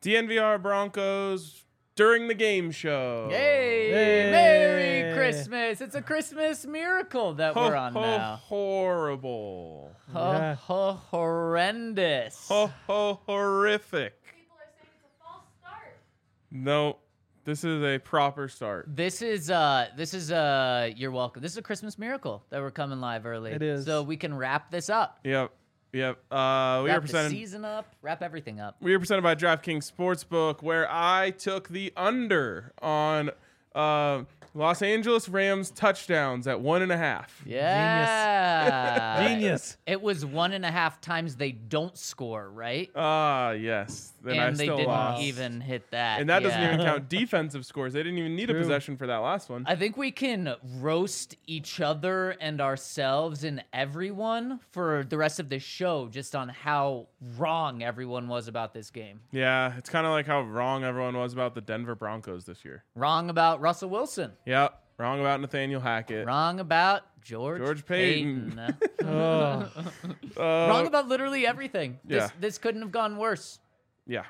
DNVR Broncos during the game show. Hey, Merry Christmas. It's a Christmas miracle that we're on now. Horrible. Horrendous. Horrific. People are saying it's a false start. No, this is a proper start. This is you're welcome. This is a Christmas miracle that we're coming live early. It is. So we can wrap this up. Yep. We are Wrap the presented. season up, wrap everything up. We are presented by DraftKings Sportsbook, where I took the under on Los Angeles Rams touchdowns at 1.5. Yeah. Genius. It was 1.5 times they don't score, right? Yes. Then And I they still didn't lost. even hit that. And that doesn't Yeah. even count defensive scores. They didn't even need a True. possession for that last one. I think we can roast each other and ourselves and everyone for the rest of the show just on how wrong everyone was about this game. Yeah, it's kind of like how wrong everyone was about the Denver Broncos this year. Wrong about Russell Wilson. Yep. Wrong about Nathaniel Hackett. Wrong about George Payton. Oh. Wrong about literally everything. Yeah. This couldn't have gone worse. Yeah,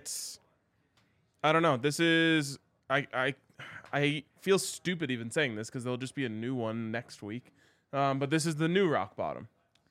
I don't know. This is I feel stupid even saying this because there'll just be a new one next week. But this is the new rock bottom.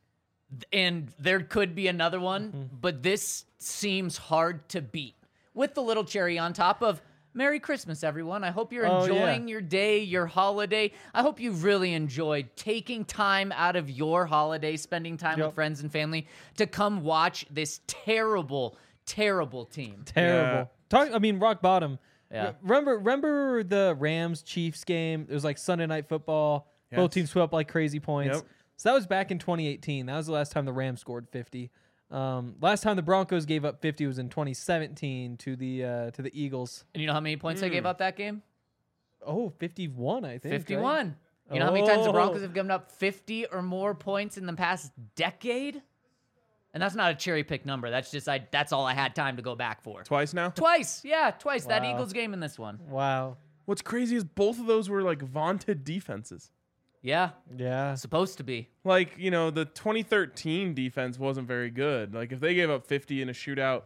And there could be another one, but this seems hard to beat. With the little cherry on top of Merry Christmas, everyone. I hope you're enjoying your day, your holiday. I hope you really enjoyed taking time out of your holiday, spending time with friends and family to come watch this terrible, terrible team. Terrible. Rock bottom. Yeah. Remember the Rams-Chiefs game? It was like Sunday Night Football. Yes. Both teams put up like crazy points. Yep. So that was back in 2018. That was the last time the Rams scored 50. Last time the Broncos gave up 50 was in 2017 to the Eagles. And you know how many points they gave up that game? Oh, 51, I think. 51. Right? You know how many times the Oh. Broncos have given up 50 or more points in the past decade? And that's not a cherry pick number. That's just that's all I had time to go back for. Twice now? Twice. Yeah, twice. That Wow. Eagles game and this one. Wow. What's crazy is both of those were like vaunted defenses. Yeah, Yeah. supposed to be. Like, the 2013 defense wasn't very good. Like, if they gave up 50 in a shootout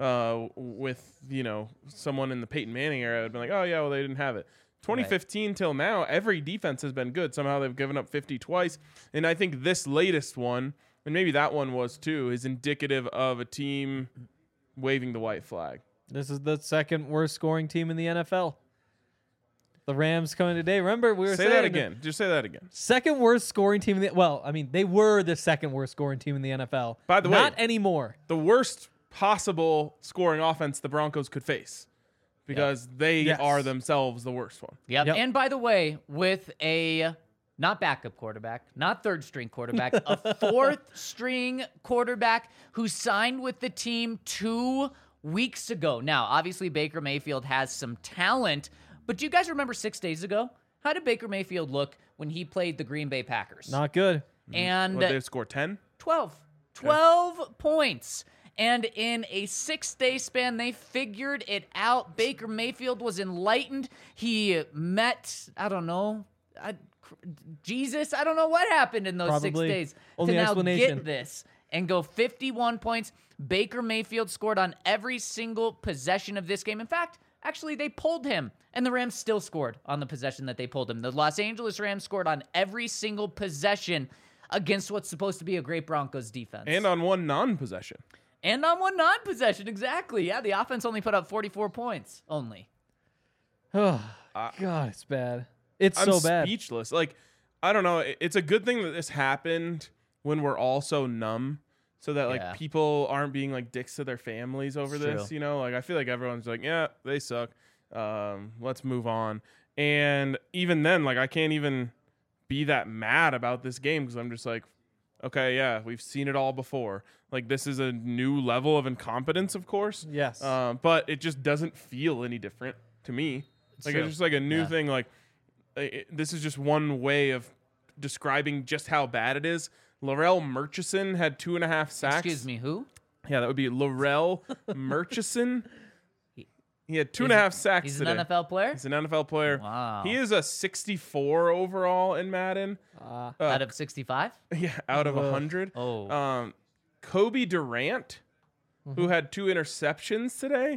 with, someone in the Peyton Manning era, I'd be like, oh, yeah, well, they didn't have it. 2015 till now, every defense has been good. Somehow they've given up 50 twice. And I think this latest one, and maybe that one was too, is indicative of a team waving the white flag. This is the second worst scoring team in the NFL. The Rams coming today. Remember, we were Say saying that again. Just say that again. second worst scoring team in the they were the second worst scoring team in the NFL. By the way- not anymore. The worst possible scoring offense the Broncos could face because they Yes. are themselves the worst one. Yep. Yep. And by the way, with a not backup quarterback, not third string quarterback, a fourth string quarterback who signed with the team 2 weeks ago. Now, obviously, Baker Mayfield has some talent, but do you guys remember 6 days ago? How did Baker Mayfield look when he played the Green Bay Packers? Not good. And What, they score 10? 12. 12 points. And in a 6-day span, they figured it out. Baker Mayfield was enlightened. He met, Jesus. I don't know what happened in those Probably. 6 days Only to now explanation. get this and go 51 points. Baker Mayfield scored on every single possession of this game. In fact, actually, they pulled him, and the Rams still scored on the possession that they pulled him. The Los Angeles Rams scored on every single possession against what's supposed to be a great Broncos defense. And on one non-possession. And on one non-possession, exactly. Yeah, the offense only put up 44 points. Only. Oh, God, it's bad. It's I'm so bad. speechless. Like, I don't know. It's a good thing that this happened when we're all so numb so that, Yeah. people aren't being, dicks to their families over It's this, true. I feel like everyone's like, yeah, they suck. Let's move on. And even then, I can't even be that mad about this game because I'm just like, okay, yeah, we've seen it all before. This is a new level of incompetence, of course. Yes. But it just doesn't feel any different to me. true. It's just a new Yeah. thing. This is just one way of describing just how bad it is. Laurel Murchison had 2.5 sacks. Excuse me, who? Yeah, that would be Laurel Murchison. He had 2.5 sacks He's today. an NFL player? He's an NFL player. Wow. He is a 64 overall in Madden. Out of 65? Yeah, out of 100. Oh. Kobe Durant, who had 2 interceptions today.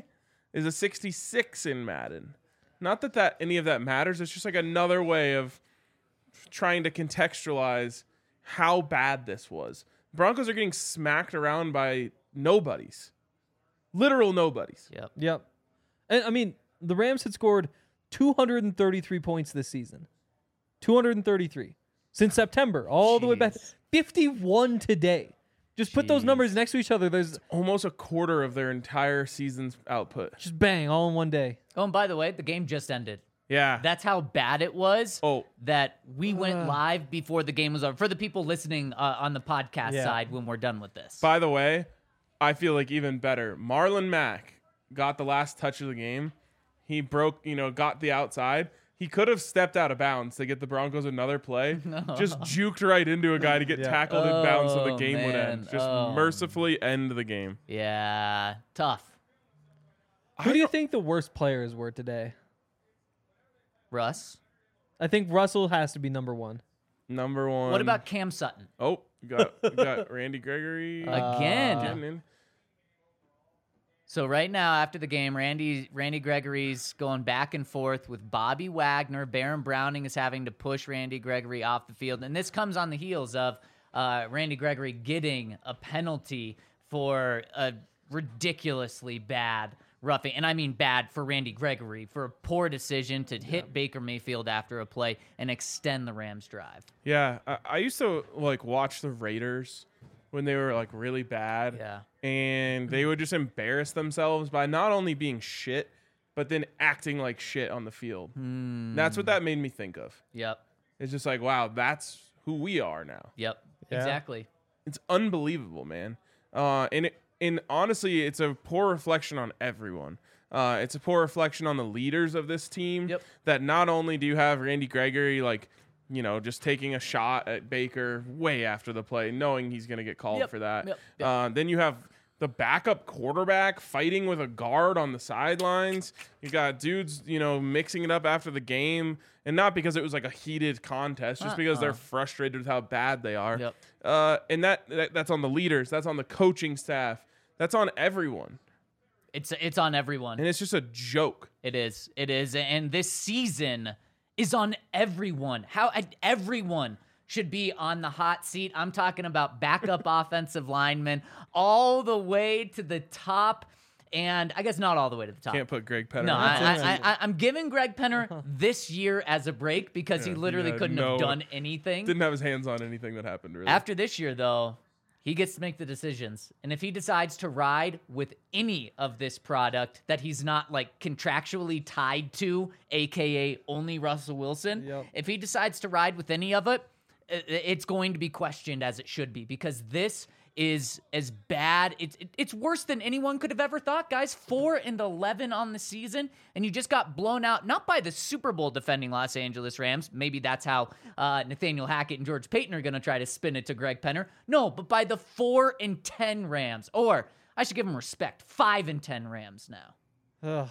is a 66 in Madden. Not that any of that matters. It's just like another way of trying to contextualize how bad this was. Broncos are getting smacked around by nobodies. Literal nobodies. Yep. And I mean, the Rams had scored 233 points this season. 233 since September, all the way back. 51 today. Just put those numbers next to each other. There's almost a quarter of their entire season's output. Just bang, all in one day. Oh, and by the way, the game just ended. Yeah. That's how bad it was. Oh. That we went live before the game was over. For the people listening on the podcast Yeah. side when we're done with this. By the way, I feel like even better. Marlon Mack got the last touch of the game. He broke, got the outside. He could have stepped out of bounds to get the Broncos another play. Just juked right into a guy to get tackled in bounds so the game would end. Just mercifully end the game. Yeah, tough. Who do you think the worst players were today? Russ. I think Russell has to be number one. Number one. What about Cam Sutton? Oh, we got Randy Gregory. Again. getting in. So right now, after the game, Randy Gregory's going back and forth with Bobby Wagner. Baron Browning is having to push Randy Gregory off the field. And this comes on the heels of Randy Gregory getting a penalty for a ridiculously bad roughing. And I mean bad for Randy Gregory for a poor decision to hit Baker Mayfield after a play and extend the Rams drive. Yeah, I used to watch the Raiders when they were really bad. Yeah. And they would just embarrass themselves by not only being shit, but then acting like shit on the field. That's what that made me think of. Yep. It's just like, wow, that's who we are now. Yep. Yeah. Exactly. It's unbelievable, man. And honestly, it's a poor reflection on everyone. It's a poor reflection on the leaders of this team. Yep. That not only do you have Randy Gregory just taking a shot at Baker way after the play, knowing he's going to get called for that. Yep. Then you have the backup quarterback fighting with a guard on the sidelines. You got dudes, mixing it up after the game, and not because it was a heated contest, just because they're frustrated with how bad they are. Yep. And that's on the leaders. That's on the coaching staff. That's on everyone. It's on everyone. And it's just a joke. It is. And this season is on everyone. How everyone should be on the hot seat. I'm talking about backup offensive linemen all the way to the top. And I guess not all the way to the top. Can't put Greg Penner. No, on. I'm giving Greg Penner this year as a break because he literally couldn't have done anything. Didn't have his hands on anything that happened, really. After this year, though, he gets to make the decisions. And if he decides to ride with any of this product that he's not contractually tied to, AKA only Russell Wilson, if he decides to ride with any of it, it's going to be questioned as it should be, because this is as bad. It's worse than anyone could have ever thought, guys. 4-11 on the season, and you just got blown out, not by the Super Bowl defending Los Angeles Rams. Maybe that's how Nathaniel Hackett and George Payton are going to try to spin it to Greg Penner. No, but by the 4-10 Rams, or I should give them respect, 5-10 Rams now.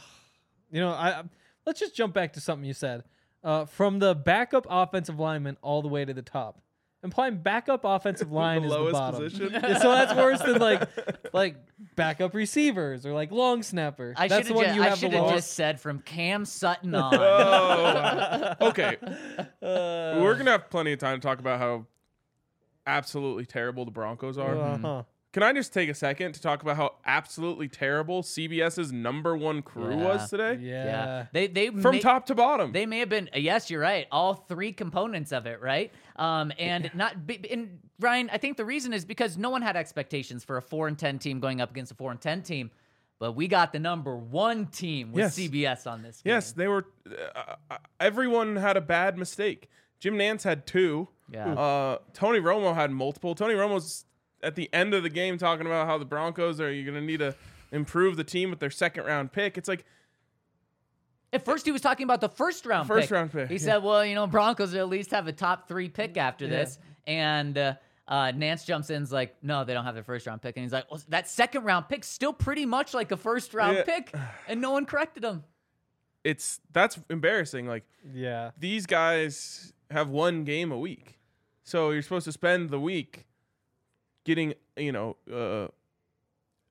Let's just jump back to something you said. From the backup offensive lineman all the way to the top. Implying backup offensive line is the bottom. Position. Yeah, so that's worse than like backup receivers or long snapper. That's the one you have the I should have lowest. just said from Cam Sutton on. Oh, okay. We're going to have plenty of time to talk about how absolutely terrible the Broncos are. Uh-huh. Can I just take a second to talk about how absolutely terrible CBS's number one crew was today? Yeah. They From top to bottom. They may have been. Yes, you're right. All three components of it, right? And Ryan, I think the reason is because no one had expectations for a 4-10 team going up against a 4-10 team, but we got the number one team with CBS on this game. Yes, they were. Everyone had a bad mistake. Jim Nantz had two. Yeah. Tony Romo had multiple. Tony Romo's at the end of the game talking about how the Broncos are going to need to improve the team with their second-round pick. It's like, at first he was talking about the first round pick. He said, well, Broncos will at least have a top 3 pick after this. And Nance jumps in and is like, no, they don't have their first round pick. And he's like, well, that second round pick's still pretty much like a first round pick. And no one corrected him. That's embarrassing. These guys have one game a week. So you're supposed to spend the week getting,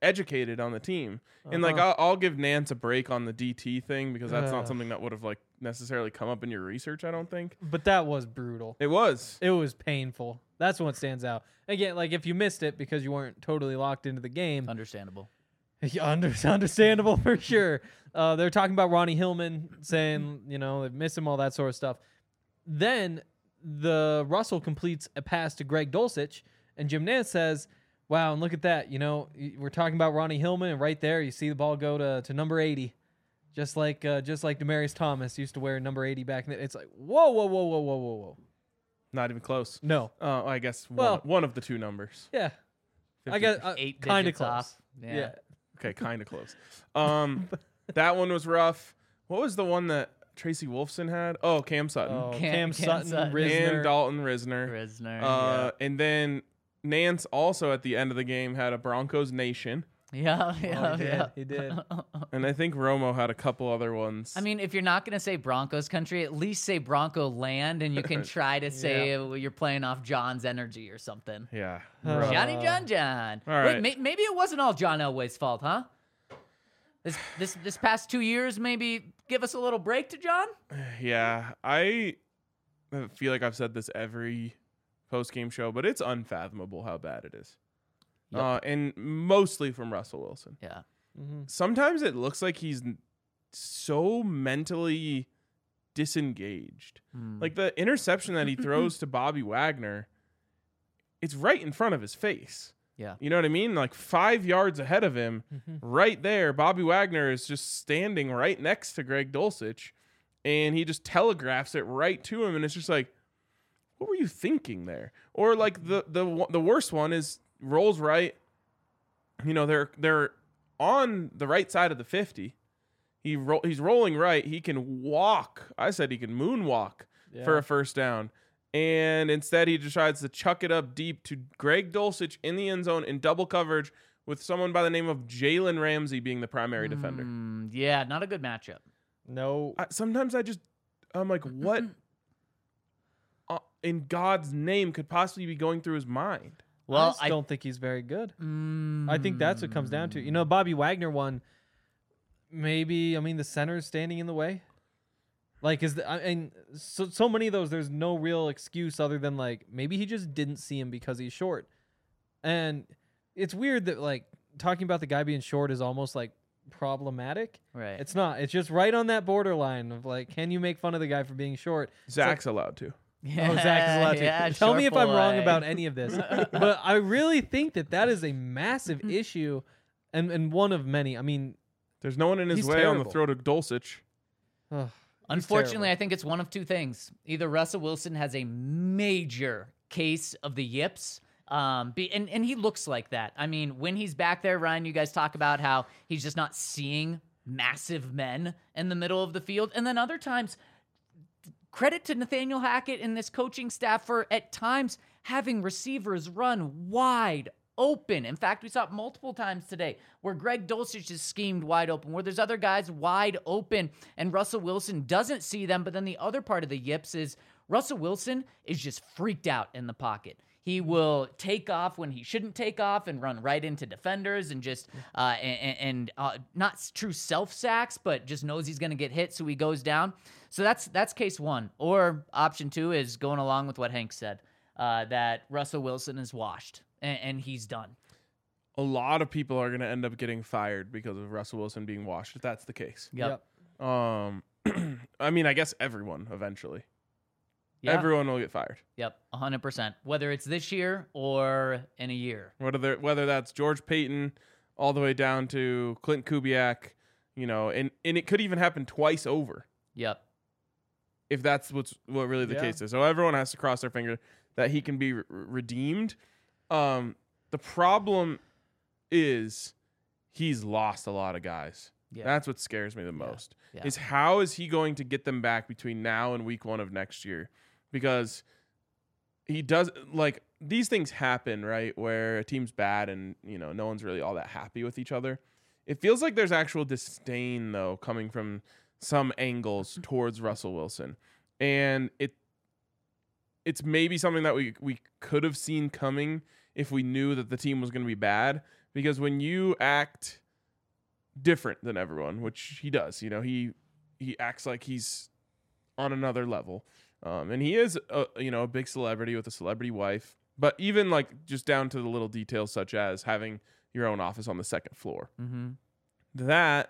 educated on the team. And like I'll give Nance a break on the DT thing because that's not something that would have like necessarily come up in your research, I don't think. But that was brutal. It was. It was painful. That's what stands out. Again, like if you missed it because you weren't totally locked into the game, Understandable. Understandable for sure. They're talking about Ronnie Hillman, saying, they miss him, all that sort of stuff. Then the Russell completes a pass to Greg Dulcich, and Jim Nance says, wow, and look at that. We're talking about Ronnie Hillman, and right there you see the ball go to number 80. Just like Demaryius Thomas used to wear number 80 back then. It's like, whoa. Not even close. No. I guess Well, one of the two numbers. Yeah. 50. I guess 8 kind of digits close. off. Yeah. Okay, kind of close. That one was rough. What was the one that Tracy Wolfson had? Oh, Cam Sutton. Oh, Cam Cam Sutton, Sutton. Risner. And Dalton Risner. Risner. And then Nance also at the end of the game had a Broncos Nation. Yeah. He did. And I think Romo had a couple other ones. I mean, if you're not going to say Broncos country, at least say Bronco land, and you can try to say you're playing off John's energy or something. yeah. Johnny John. All right. Wait, maybe it wasn't all John Elway's fault, huh? This past 2 years, maybe give us a little break to John? Yeah. I feel like I've said this every post-game show, but it's unfathomable how bad it is. Yep. And mostly from Russell Wilson. Yeah. Sometimes it looks like he's so mentally disengaged. Like the interception that he throws to Bobby Wagner, it's right in front of his face. Yeah. You know what I mean? Like 5 yards ahead of him, right there, Bobby Wagner is just standing right next to Greg Dulcich, and he just telegraphs it right to him, and it's just like, what were you thinking there? Or like the worst one is rolls right. They're on the right side of the 50. He's rolling right. He can walk. I said he can moonwalk for a first down. And instead he decides to chuck it up deep to Greg Dulcich in the end zone in double coverage with someone by the name of Jalen Ramsey being the primary defender. Yeah, not a good matchup. No. Sometimes I'm like, what in God's name could possibly be going through his mind? Well, I don't think he's very good. I think that's what it comes down to. Bobby Wagner won. Maybe, the center's standing in the way. Like, so many of those, there's no real excuse other than, like, maybe he just didn't see him because he's short. And it's weird that, like, talking about the guy being short is almost, like, problematic. Right. It's not. It's just right on that borderline of, like, can you make fun of the guy for being short? Zach's allowed to. Yeah, Oh, Zach is allowed to. yeah, Tell me if I'm wrong boy. about any of this. But I really think that is a massive issue and one of many. There's no one in his He's way on the terrible. throw to Dulcich. Ugh, he's Unfortunately, terrible. I think it's one of two things. Either Russell Wilson has a major case of the yips, and he looks like that. When he's back there, Ryan, you guys talk about how he's just not seeing massive men in the middle of the field. And then other times, credit to Nathaniel Hackett and this coaching staff for, at times, having receivers run wide open. In fact, we saw it multiple times today where Greg Dulcich is schemed wide open, where there's other guys wide open, and Russell Wilson doesn't see them. But then the other part of the yips is Russell Wilson is just freaked out in the pocket. He will take off when he shouldn't take off and run right into defenders and just not true self sacks, but just knows he's going to get hit, so he goes down. So that's case one. Or option two is going along with what Hank said, that Russell Wilson is washed and he's done. A lot of people are going to end up getting fired because of Russell Wilson being washed, if that's the case. Yep. I guess everyone eventually. Yeah. Everyone will get fired. Yep, 100%. Whether it's this year or in a year. Whether that's George Payton all the way down to Clint Kubiak, and it could even happen twice over Yep. if that's what really the case is. So everyone has to cross their finger that he can be redeemed. The problem is he's lost a lot of guys. Yeah. That's what scares me the most. Yeah. Is how is he going to get them back between now and week 1 of next year? Because he does, like, these things happen, right? Where a team's bad and, no one's really all that happy with each other. It feels like there's actual disdain, though, coming from some angles towards Russell Wilson. And it's maybe something that we could have seen coming if we knew that the team was going to be bad. because when you act different than everyone, which he does, he acts like he's on another level, and he is a big celebrity with a celebrity wife. But even like just down to the little details, such as having your own office on the second floor, that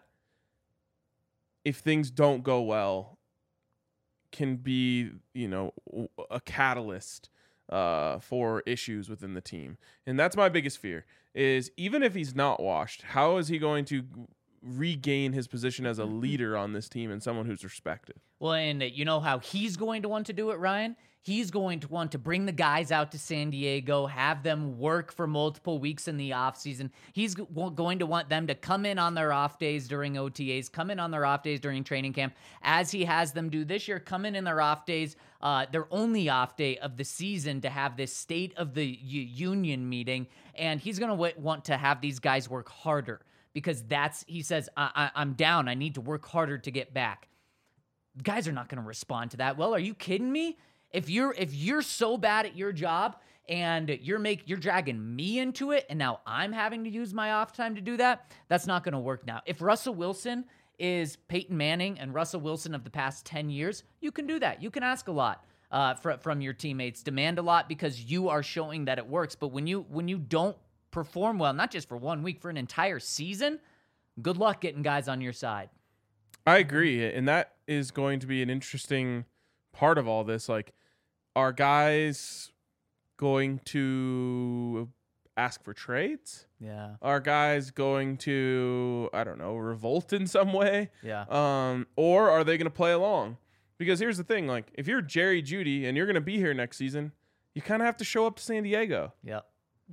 if things don't go well, can be a catalyst for issues within the team. And that's my biggest fear, is even if he's not washed, how is he going to regain his position as a leader on this team and someone who's respected? Well, and you know how he's going to want to do it, Ryan? He's going to want to bring the guys out to San Diego, have them work for multiple weeks in the offseason. He's going to want them to come in on their off days during OTAs, come in on their off days during training camp, as he has them do this year, come in their off days, their only off day of the season, to have this State of the Union meeting. And he's going to want to have these guys work harder, because he says, I'm down. I need to work harder to get back. Guys are not going to respond to that. Well, are you kidding me? If you're so bad at your job and you're dragging me into it, and now I'm having to use my off time to do that, that's not going to work now. If Russell Wilson is Peyton Manning and Russell Wilson of the past 10 years, you can do that. You can ask a lot from your teammates, demand a lot, because you are showing that it works. But when you don't perform well, not just for 1 week, for an entire season, good luck getting guys on your side. I agree, and that is going to be an interesting part of all this. Like, are guys going to ask for trades? Yeah. Are guys going to, I don't know, revolt in some way? Yeah. Or are they going to play along? Because here's the thing, like, if you're Jerry Jeudy and you're going to be here next season, you kind of have to show up to San Diego. Yep.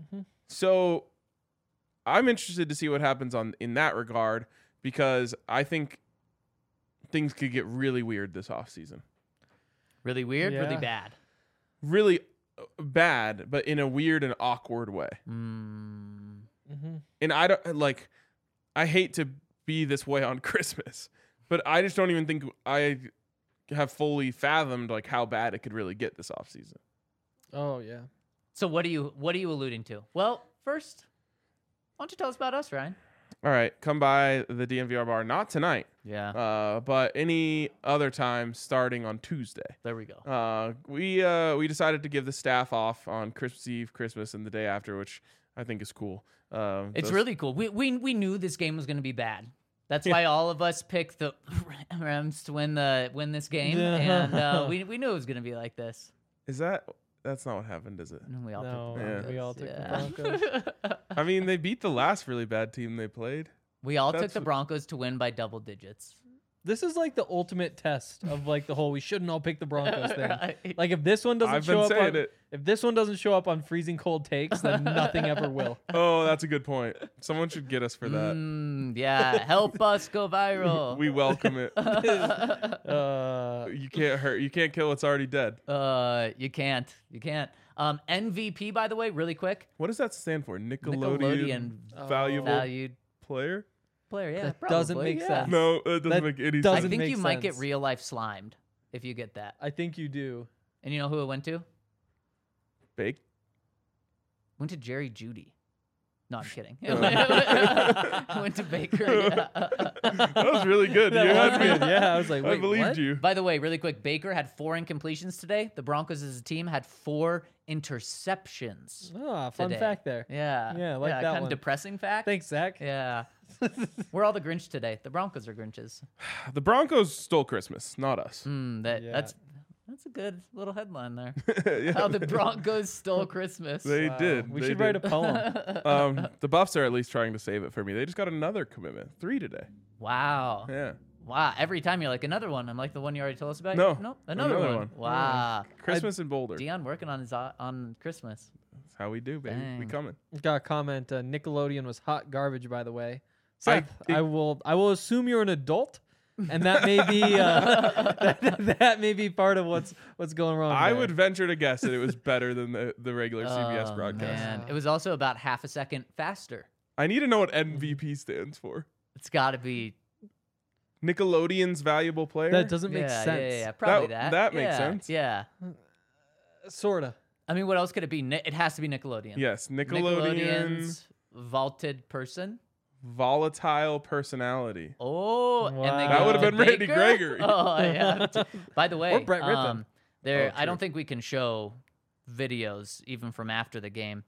So I'm interested to see what happens in that regard, because I think things could get really weird this offseason. Really weird, Yeah. really bad. Really bad, but in a weird and awkward way. Mm. And I hate to be this way on Christmas, but I just don't even think I have fully fathomed like how bad it could really get this offseason. Oh yeah. So what are you alluding to? Well, first, why don't you tell us about us, Ryan? All right, come by the DNVR bar, not tonight, Yeah. but any other time starting on Tuesday. There we go. We decided to give the staff off on Christmas Eve, Christmas, and the day after, which I think is cool. It's really cool. We knew this game was going to be bad. That's why all of us picked the Rams to win this game, and we knew it was going to be like this. That's not what happened, is it? And we all No, took the Broncos. we all took Yeah. the Broncos. I mean, they beat the last really bad team they played. We all took That's- the Broncos to win by double digits. This is like the ultimate test of like the whole we shouldn't all pick the Broncos thing. Right. Like if this one doesn't I've show been up saying on, it. if this one doesn't show up on freezing cold takes, then nothing ever will. Oh, that's a good point. Someone should get us for that. Yeah, help us go viral. We welcome it. Uh, You can't kill what's already dead. You can't. MVP, by the way, really quick. What does that stand for? Nickelodeon Nickelodeon valuable valued player? player. Yeah, That probably, doesn't make yeah. sense. No, it doesn't That make any I doesn't sense. think make you might get sense. real life slimed if you get that. I think you do. And you know who it went to? Bake. Went to Jerry Jeudy. No, I'm kidding. Went to Baker. Yeah. That was really good. That You had was me. good. Yeah, I was like, I wait, believed what? you. By the way, really quick, Baker had 4 incompletions today. The Broncos as a team had 4 interceptions. Ah, fun Today. fact there. Yeah. Yeah, I like that kind of one. depressing depressing fact. Thanks, Zach. Yeah. We're all the Grinch today. The Broncos are Grinches. The Broncos stole Christmas, not us. Yeah. That's a good little headline there. Yeah, How the Broncos stole Christmas. they Wow. did. We They should did. write a poem. The Buffs are at least trying to save it for me. They just got another commitment. 3 today. Wow. Yeah. Wow. Every time you're like, another one. I'm like, the one you already told us about? No, Nope. Another another one. one. Wow. Christmas in Boulder. Dion working on his on Christmas. That's how we do, baby. We Dang. coming. Got a comment. Nickelodeon was hot garbage, by the way. I Seth, think- I will assume you're an adult, and that may be that may be part of what's going wrong. I there. would venture to guess that it was better than the regular CBS Oh, broadcast. Man. It was also about half a second faster. I need to know what MVP stands for. It's got to be. Nickelodeon's valuable player. That doesn't make Yeah, sense. yeah, probably that. That makes Yeah, sense. Yeah. Sorta. I mean, what else could it be? It has to be Nickelodeon. Yes, Nickelodeon's Nickelodeon's vaulted person. Volatile personality. Oh, and they Wow. That go would have to been Randy Baker? Gregory. Oh, yeah. By the way, Or Brett Rippon. there. Oh, I don't true. think we can show videos even from after the game,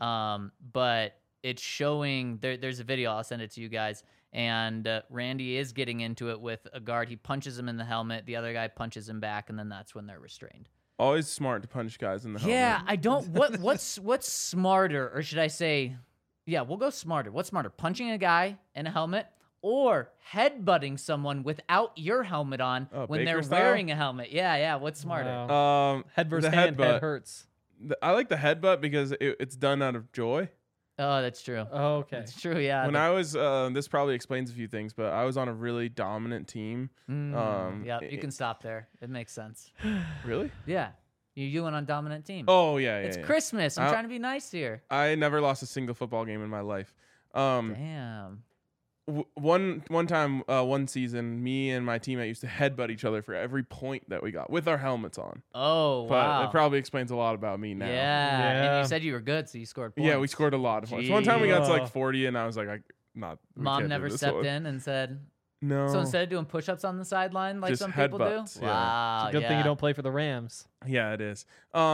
but it's showing. There's a video. I'll send it to you guys. And Randy is getting into it with a guard. He punches him in the helmet. The other guy punches him back, and then that's when they're restrained. Always smart to punch guys in the helmet. Yeah, I don't. What's smarter, or should I say? Yeah, we'll go smarter. What's smarter, punching a guy in a helmet or headbutting someone without your helmet on when Baker they're style? wearing a helmet? Yeah. What's smarter? Wow. Head versus the hand, head headbutt. hurts. I like the headbutt because it's done out of joy. Oh, that's true. Oh, okay. That's true. Yeah. When I was, this probably explains a few things, but I was on a really dominant team. Yeah, you can stop there. It makes sense. Really? Yeah, you went on dominant team. Oh yeah, it's yeah. Christmas. I'm trying to be nice here. I never lost a single football game in my life. Damn. One time, one season, me and my teammate used to headbutt each other for every point that we got with our helmets on. Oh, But wow. it probably explains a lot about me now. Yeah. And Yeah. you said you were good, so you scored points. Yeah, we scored a lot of points. One time we got to like Jeez. 40, and I was like, we Mom can't do never this stepped one. in and said, No. so instead of doing push-ups on the sideline like Just some people do? headbutts, yeah. Wow. Good thing yeah. you don't play for the Rams. Yeah, it is.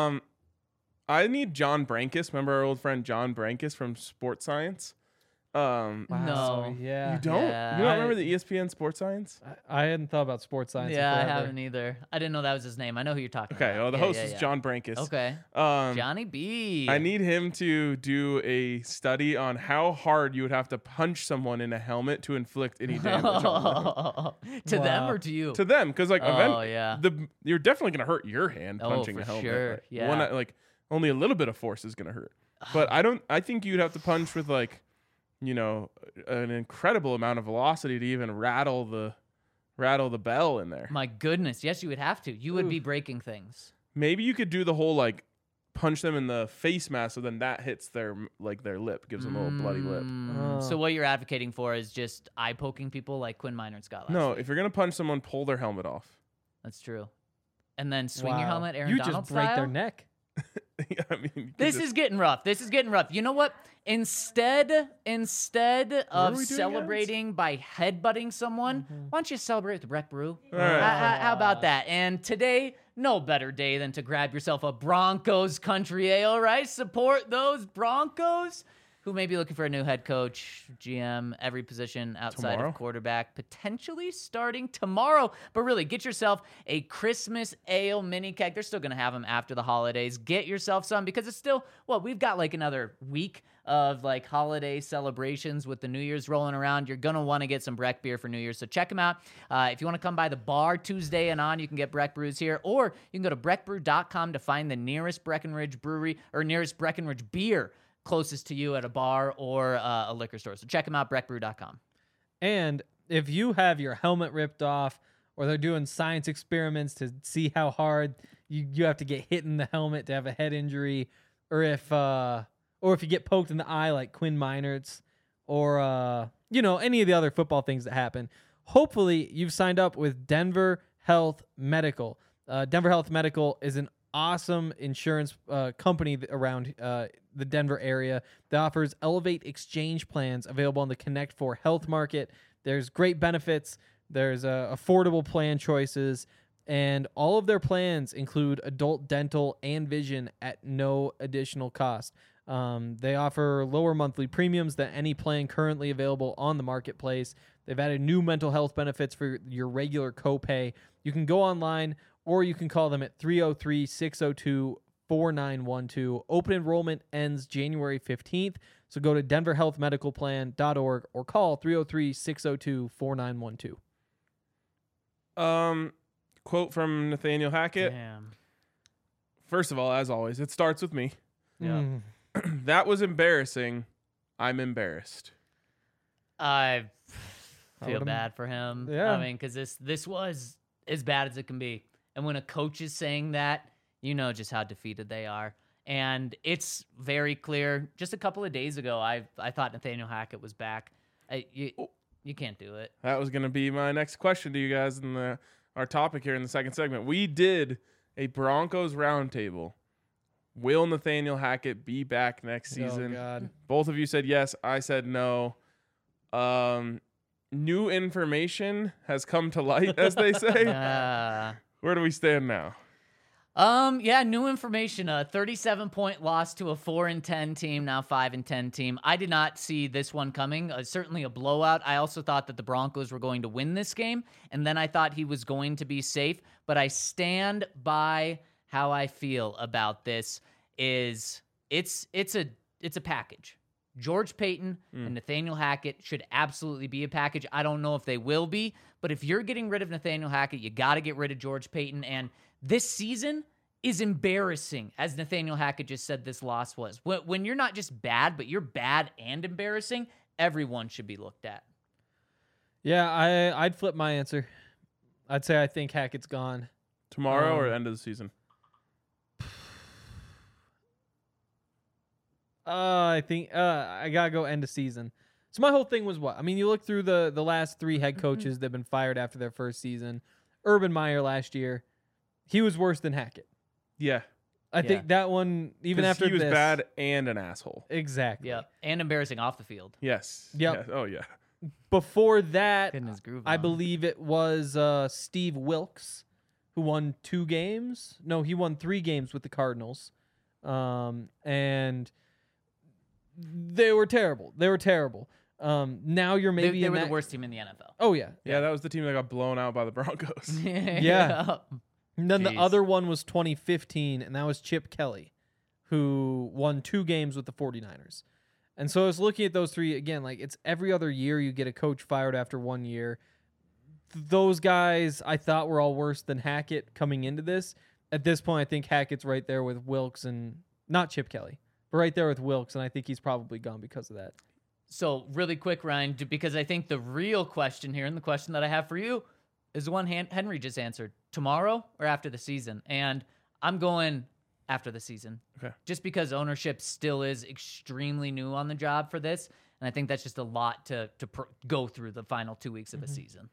I need John Brankus. Remember our old friend John Brankus from Sports Science? No. Yeah. You don't? Yeah. You don't remember the ESPN Sports Science? I hadn't thought about sports science. in Yeah, I forever. haven't either. I didn't know that was his name. I know who you're talking Okay. about. Well, the Yeah, host yeah, is yeah. John Brankus. Okay. Um, Johnny B. I need him to do a study on how hard you would have to punch someone in a helmet to inflict any damage on them. To them Wow. or to you? To them, because like yeah. you're definitely gonna hurt your hand Oh, punching for a helmet. sure, Like, yeah. like only a little bit of force is gonna hurt. But I think you'd have to punch with like, an incredible amount of velocity to even rattle the bell in there. My goodness. Yes, you would have to. You would be breaking things. Maybe you could do the whole like punch them in the face mask, so then that hits their lip, gives them a little bloody lip. So what you're advocating for is just eye poking people like Quinn Minor and Scott last No, week. if you're gonna punch someone, pull their helmet off. That's true. And then swing your Wow. helmet, Aaron You Donald just break style. their neck. I mean, you could This just- is getting rough. This is getting rough. You know what? Instead are of we doing, celebrating by headbutting someone, why don't you celebrate with Breck Brew? All right. How about that? And today, no better day than to grab yourself a Broncos country ale, right? Support those Broncos who may be looking for a new head coach, GM, every position outside Tomorrow? of quarterback, potentially starting tomorrow. But really, get yourself a Christmas ale mini keg. They're still going to have them after the holidays. Get yourself some because it's still, we've got like another week of like holiday celebrations with the New Year's rolling around. You're going to want to get some Breck beer for New Year's. So check them out. If you want to come by the bar Tuesday and on, you can get Breck Brews here, or you can go to breckbrew.com to find the nearest Breckenridge brewery or nearest Breckenridge beer closest to you at a bar or a liquor store. So check them out, breckbrew.com. And if you have your helmet ripped off, or they're doing science experiments to see how hard you have to get hit in the helmet to have a head injury, or if you get poked in the eye like Quinn Minert's, or any of the other football things that happen, hopefully you've signed up with Denver Health Medical. Denver Health Medical is an awesome insurance company around the Denver area that offers Elevate Exchange plans available on the Connect 4 Health Market. There's great benefits. There's affordable plan choices. And all of their plans include adult dental and vision at no additional cost. They offer lower monthly premiums than any plan currently available on the marketplace. They've added new mental health benefits for your regular copay. You can go online or you can call them at 303-602-4912. Open enrollment ends January 15th. So go to denverhealthmedicalplan.org or call 303-602-4912. Quote from Nathaniel Hackett. Damn. First of all, as always, it starts with me. Yeah. That was embarrassing. I'm embarrassed. I feel would've- bad for him. Yeah. I mean, because this was as bad as it can be. And when a coach is saying that, you know just how defeated they are. And it's very clear. Just a couple of days ago, I thought Nathaniel Hackett was back. You can't do it. That was going to be my next question to you guys in our topic here in the second segment. We did a Broncos roundtable Will Nathaniel Hackett be back next season? Oh, God. Both of you said yes. I said no. New information has come to light, as they say. Where do we stand now? Yeah, new information. A 37-point loss to a 4-10 team, now 5-10 team. I did not see this one coming. Certainly a blowout. I also thought that the Broncos were going to win this game, and then I thought he was going to be safe. But I stand by how I feel about this. It's a package. George Paton and Nathaniel Hackett should absolutely be a package. I don't know if they will be, but if you're getting rid of Nathaniel Hackett, you got to get rid of George Paton. And this season is embarrassing, as Nathaniel Hackett just said this loss was. When you're not just bad, but you're bad and embarrassing, everyone should be looked at. Yeah, I'd flip my answer. I'd say I think Hackett's gone. Tomorrow or end of the season? I think I gotta go end of season. So my whole thing was what? I mean, you look through the last 3 head coaches that have been fired after their first season. Urban Meyer last year, he was worse than Hackett. Yeah. I think that one, even after he was this, bad and an asshole. Exactly. Yeah, and embarrassing off the field. Yes. Yep. Yeah. Oh, yeah. Before that, Getting his groove I on. believe it was Steve Wilkes who won 2 games. No, he won 3 games with the Cardinals. And they were terrible. Now you're maybe They in were that... the worst team in the NFL. Oh, yeah. Yeah, that was the team that got blown out by the Broncos. Yeah. And then the Jeez. other one was 2015, and that was Chip Kelly, who won 2 games with the 49ers. And so I was looking at those 3, again, like it's every other year you get a coach fired after 1 year. Those guys I thought were all worse than Hackett coming into this. At this point, I think Hackett's right there with Wilkes and not Chip Kelly, but right there with Wilkes, and I think he's probably gone because of that. So really quick, Ryan, because I think the real question here, and the question that I have for you, is the one Henry just answered. Tomorrow or after the season? And I'm going after the season. Okay. Just because ownership still is extremely new on the job for this. And I think that's just a lot to go through the final 2 weeks of a season.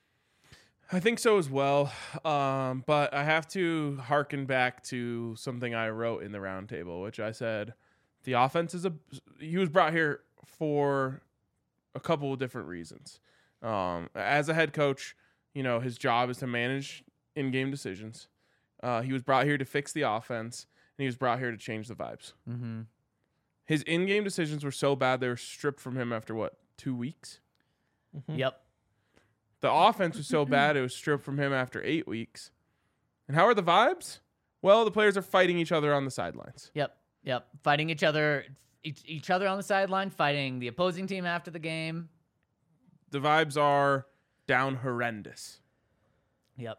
I think so as well. But I have to harken back to something I wrote in the roundtable, which I said the offense he was brought here for a couple of different reasons. As a head coach, his job is to manage in-game decisions. He was brought here to fix the offense, and he was brought here to change the vibes. Mm-hmm. His in-game decisions were so bad they were stripped from him after 2 weeks? Yep. The offense was so bad it was stripped from him after 8 weeks. And how are the vibes? Well, the players are fighting each other on the sidelines. Yep. Fighting each other on the sideline, fighting the opposing team after the game. The vibes are down horrendous. Yep.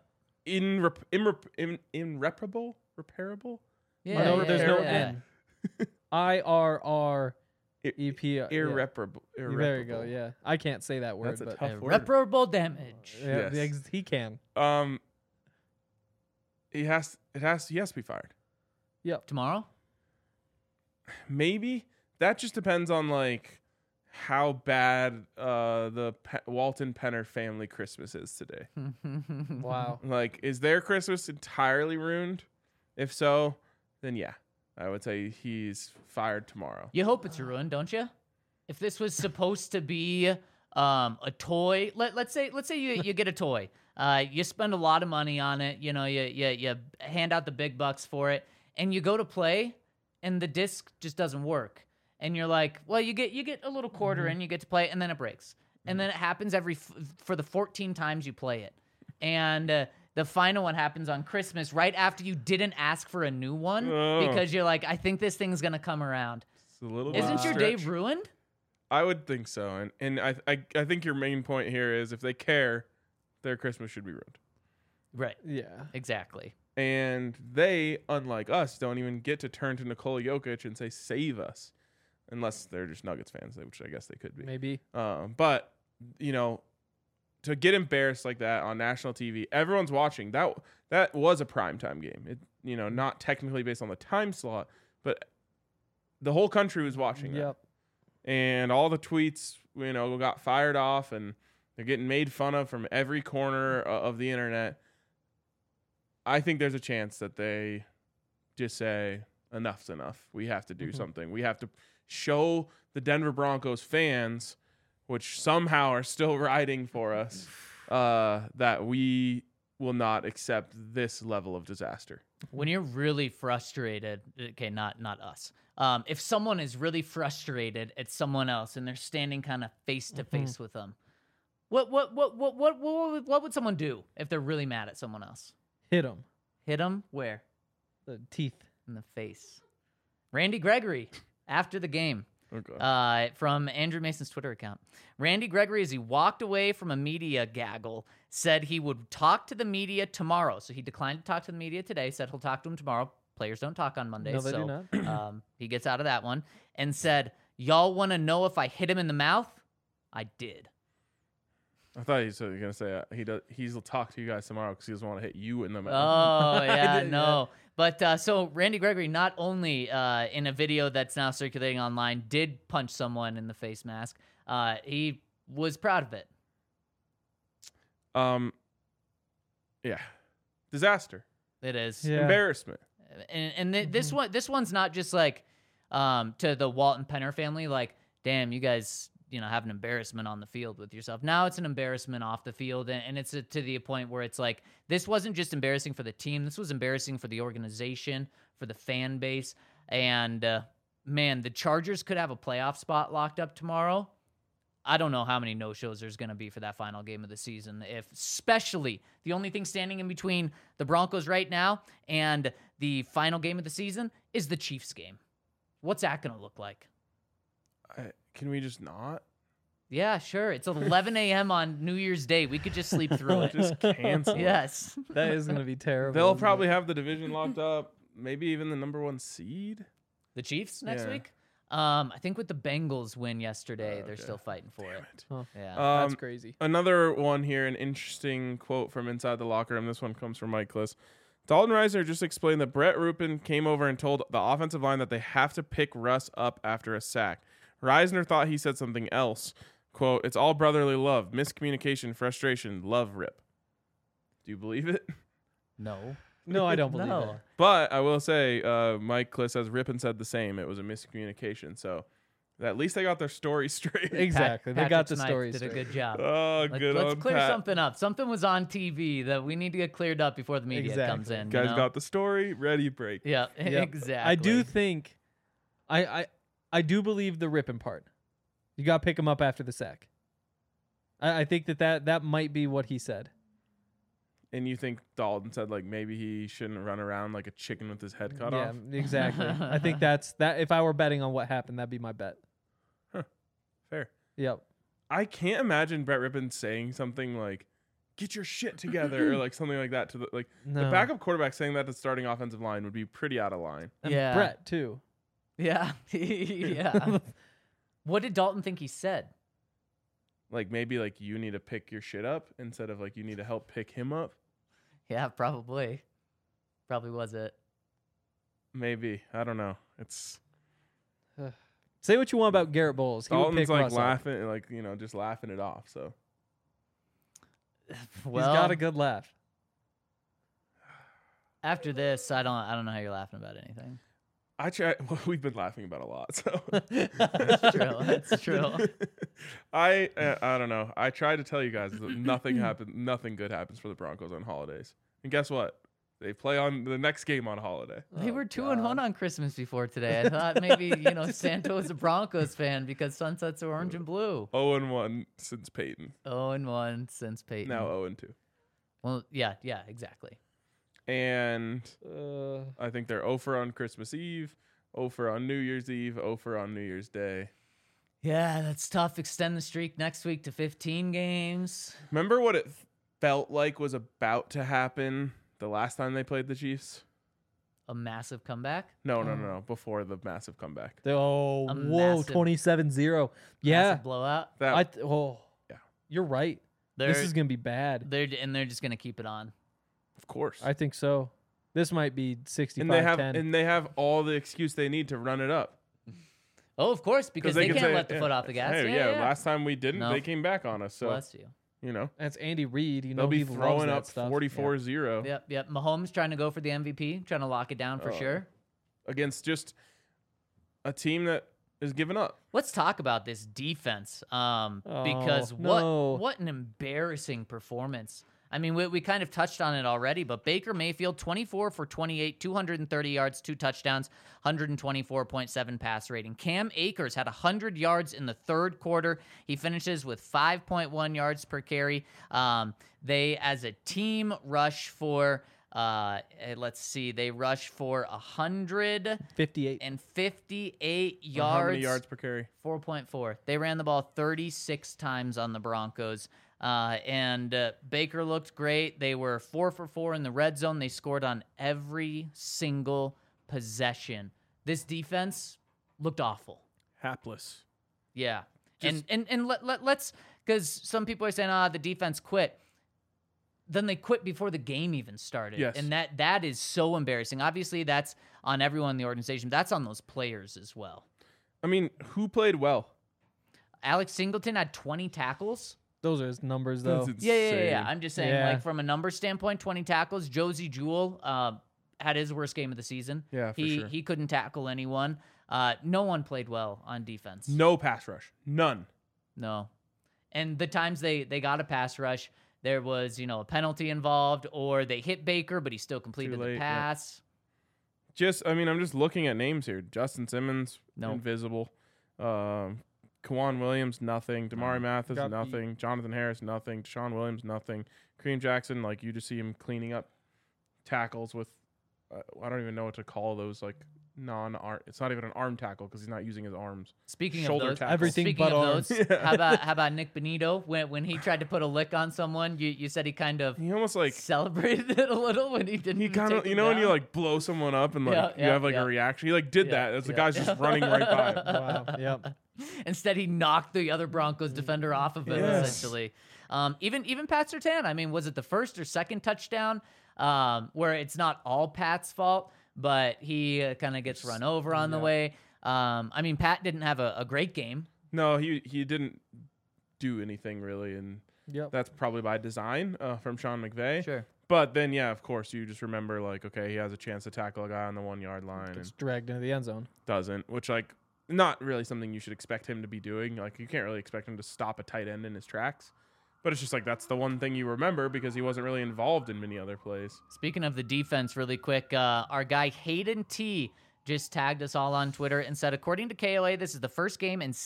Irreparable? Repairable? Yeah. No, there's no yeah. N. IRREP. Irreparable. There you go. Yeah, I can't say that word. That's a but tough word. Irreparable damage. Yeah, Yes. he can. He has to be fired. Tomorrow? Maybe. That just depends on how bad the Walton Penner family Christmas is today. Wow. Is their Christmas entirely ruined? If so, then yeah, I would say he's fired tomorrow. You hope it's ruined, don't you? If this was supposed to be a toy, let's say you get a toy. You spend a lot of money on it. You hand out the big bucks for it, and you go to play, and the disc just doesn't work. And you're like, well, you get a little quarter and you get to play, and then it breaks. And then it happens for the 14 times you play it. And the final one happens on Christmas right after you didn't ask for a new one because you're like, I think this thing's going to come around. It's a little Isn't your day stretch. ruined? I would think so. And I think your main point here is if they care, their Christmas should be ruined. Right. Yeah. Exactly. And they, unlike us, don't even get to turn to Nikola Jokic and say, save us. Unless they're just Nuggets fans, which I guess they could be. Maybe. But, to get embarrassed like that on national TV, everyone's watching. That was a primetime game. It, not technically based on the time slot, but the whole country was watching that. Yep. And all the tweets, got fired off, and they're getting made fun of from every corner of the internet. I think there's a chance that they just say, enough's enough. We have to do something. We have to show the Denver Broncos fans, which somehow are still riding for us, that we will not accept this level of disaster. When you're really frustrated, okay, not us. If someone is really frustrated at someone else and they're standing kind of face to face with them, what would someone do if they're really mad at someone else? Hit him. Hit them where? The teeth. In the face. Randy Gregory after the game. Okay. From Andrew Mason's Twitter account. Randy Gregory, as he walked away from a media gaggle, said he would talk to the media tomorrow. So he declined to talk to the media today, said he'll talk to them tomorrow. Players don't talk on Mondays. No, they so, do not. He gets out of that one and said, y'all want to know if I hit him in the mouth? I did. I thought he was going to say he'll talk to you guys tomorrow because he doesn't want to hit you in the mouth. Oh, yeah, did, no. But so Randy Gregory, not only in a video that's now circulating online, did punch someone in the face mask. He was proud of it. Yeah. Disaster. It is. Yeah. Embarrassment. And this one's not just like to the Walton Penner family, like, damn, you guys, have an embarrassment on the field with yourself. Now it's an embarrassment off the field, and it's to the point where it's like, this wasn't just embarrassing for the team. This was embarrassing for the organization, for the fan base. And, man, the Chargers could have a playoff spot locked up tomorrow. I don't know how many no-shows there's going to be for that final game of the season. Especially the only thing standing in between the Broncos right now and the final game of the season is the Chiefs game. What's that going to look like? Can we just not? Yeah, sure. It's 11 a.m. on New Year's Day. We could just sleep through it. Just cancel it. Yes. That is going to be terrible. They'll isn't probably it? have the division locked up, maybe even the number 1 seed. The Chiefs next Yeah. week? I think with the Bengals win yesterday, they're Okay. still fighting for it. Huh. Yeah. That's crazy. Another one here, an interesting quote from inside the locker room. This one comes from Mike Kliss. Dalton Reisner just explained that Brett Ruppin came over and told the offensive line that they have to pick Russ up after a sack. Reisner thought he said something else. Quote, it's all brotherly love, miscommunication, frustration, love rip. Do you believe it? No. No, I don't believe No. it. But I will say, Mike Kliss says Rippin said the same. It was a miscommunication. So at least they got their story straight. Exactly. They got the Patrick story Smythe did a straight. good job. Oh, good Let's on clear Pat. something up. Something was on TV that we need to get cleared up before the media comes Exactly. in. Guys you know? got the story, ready, break. Yeah, Yep. exactly. I do think, I do believe the ripping part. You got to pick him up after the sack. I think that might be what he said. And you think Dalton said, like, maybe he shouldn't run around like a chicken with his head cut off? Exactly. I think that's that. If I were betting on what happened, that'd be my bet. Fair. Yep. I can't imagine Brett Rippin saying something like, get your shit together, or like something like that to the, like, the No. backup quarterback saying that to the starting offensive line would be pretty out of line. And Yeah. Brett too. Yeah. Yeah. What did Dalton think he said? Like, maybe like you need to pick your shit up instead of like you need to help pick him up. Yeah, probably. Probably was it. Maybe. I don't know. It's Say what you want about Garrett Bowles. He would Dalton's pick like Russ up. laughing, like, just laughing it off. So Well, He's got a good laugh. after this, I don't know how you're laughing about anything. I try. Well, we've been laughing about a lot. So That's true. That's true. I don't know. I tried to tell you guys that nothing happened. Nothing good happens for the Broncos on holidays. And guess what? They play on the next game on holiday. They Oh, were 2-1 God. on Christmas before today. I thought maybe, Santa was a Broncos fan because sunsets are orange and blue. 0-1 since Peyton. 0-1 since Peyton. Now 0-2. Well, yeah, exactly. And I think they're 0 on Christmas Eve, 0 on New Year's Eve, 0 on New Year's Day. Yeah, that's tough. Extend the streak next week to 15 games. Remember what it felt like was about to happen the last time they played the Chiefs? A massive comeback. No. Before the massive comeback. Oh, A whoa, massive- 27-0. Yeah. Massive blowout. That Yeah. You're right. They're, This is going to be bad. they're just gonna keep it on. of course. I think so. This might be 65-10. and they have all the excuse they need to run it up. Oh, of course, because they can can't say, let the yeah, foot off the gas. Hey, yeah. last time we didn't, No. they came back on us. So, Bless you. That's Andy Reid. they'll be he loves throwing that up stuff. 44-0. Yep. Mahomes trying to go for the MVP, trying to lock it down for Oh. sure. against just a team that is giving up. Let's talk about this defense, because no. what an embarrassing performance. I mean, we kind of touched on it already, but Baker Mayfield, 24 for 28, 230 yards, 2 touchdowns, 124.7 pass rating. Cam Akers had 100 yards in the third quarter. He finishes with 5.1 yards per carry. They, as a team, rush for... let's see. They rushed for 58 yards. How many yards per carry? 4.4. They ran the ball 36 times on the Broncos. And Baker looked great. They were 4 for 4 in the red zone. They scored on every single possession. This defense looked awful. Hapless. Yeah. Let's, because some people are saying, the defense quit. Then they quit before the game even started. Yes. And that is so embarrassing. Obviously, that's on everyone in the organization. That's on those players as well. I mean, who played well? Alex Singleton had 20 tackles. Those are his numbers, though. That's Yeah. insane. I'm just saying, Yeah. like, from a number standpoint, 20 tackles. Josie Jewell had his worst game of the season. Yeah, for he sure. He couldn't tackle anyone. No one played well on defense. No pass rush. None. No. And the times they got a pass rush, there was, a penalty involved, or they hit Baker, but he still completed late, the yeah. pass. I'm just looking at names here. Justin Simmons, Nope. invisible. Kawan Williams, nothing. Damari Mathis, Got beat. nothing. Jonathan Harris, nothing. Deshaun Williams, nothing. Kareem Jackson, like, you just see him cleaning up tackles with, I don't even know what to call those, like, non-arm. It's not even an arm tackle because he's not using his arms. Speaking Shoulder of those, tackle. Everything speaking but of arms. those, how about Nick Benito when he tried to put a lick on someone? You said he kind of He almost like celebrated it a little when he didn't. he kind of take when him you down? like blow someone up and like Yeah, you have like yeah. a reaction. He like did Yeah, that as the yeah. guy's just running right by him. Wow. Yep. Instead, he knocked the other Broncos defender off of him, Yes. essentially. Even Pat Surtain, I mean, was it the first or second touchdown where it's not all Pat's fault, but he kind of gets run over on the way? I mean, Pat didn't have a great game. No, he didn't do anything really, and Yep. that's probably by design from Sean McVay. Sure. But then, yeah, of course, you just remember like, okay, he has a chance to tackle a guy on the 1 yard line Gets and dragged into the end zone. doesn't, which like not really something you should expect him to be doing. Like you can't really expect him to stop a tight end in his tracks. But it's just like that's the one thing you remember because he wasn't really involved in many other plays. Speaking of the defense, really quick, our guy Hayden T just tagged us all on Twitter and said, according to KOA, this is the first game in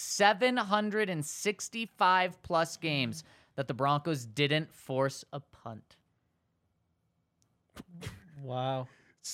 765 plus games that the Broncos didn't force a punt. Wow.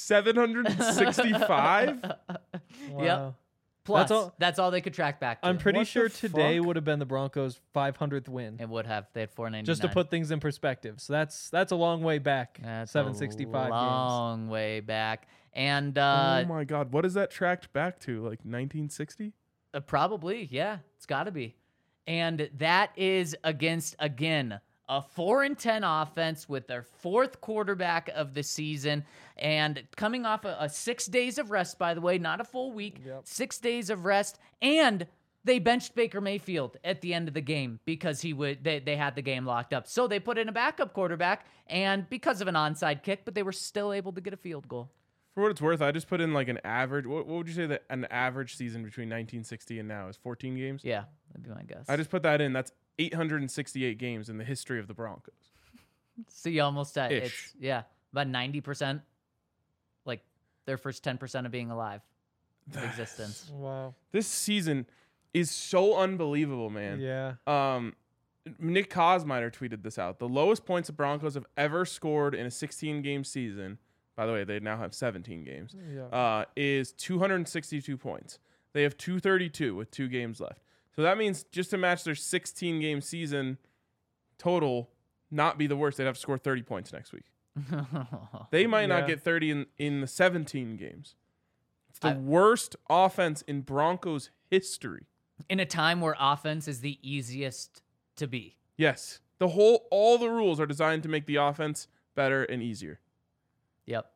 765? Wow. Yep. Plus, That's all- that's all they could track back to. I'm pretty What the sure today fuck? would have been the Broncos' 500th win. It would have. They had 499. Just to put things in perspective. So that's a long way back. That's 765 a long way back. And Oh my God. What is that tracked back to? Like 1960? probably, yeah, it's got to be. And that is against, again, a 4-10 offense with their fourth quarterback of the season, and coming off a 6 days of rest, by the way, not a full week, Yep. 6 days of rest, and they benched Baker Mayfield at the end of the game because they had the game locked up. So they put in a backup quarterback, and because of an onside kick, but they were still able to get a field goal. For what it's worth, I just put in like an average. What would you say that an average season between 1960 and now is? 14 games? Yeah, that'd be my guess. I just put that in. That's 868 games in the history of the Broncos. So you almost said Ish. it's about 90%, like their first 10% of being alive of existence. Wow. This season is so unbelievable, man. Yeah. Nick Kosmider tweeted this out. The lowest points the Broncos have ever scored in a 16-game season, by the way, they now have 17 games, Yeah. is 262 points. They have 232 with 2 games left. So that means just to match their 16-game season total, not be the worst, they'd have to score 30 points next week. They might not Yeah. get 30 in the 17 games. It's the I- worst offense in Broncos history. In a time where offense is the easiest to be. Yes. All the rules are designed to make the offense better and easier. Yep.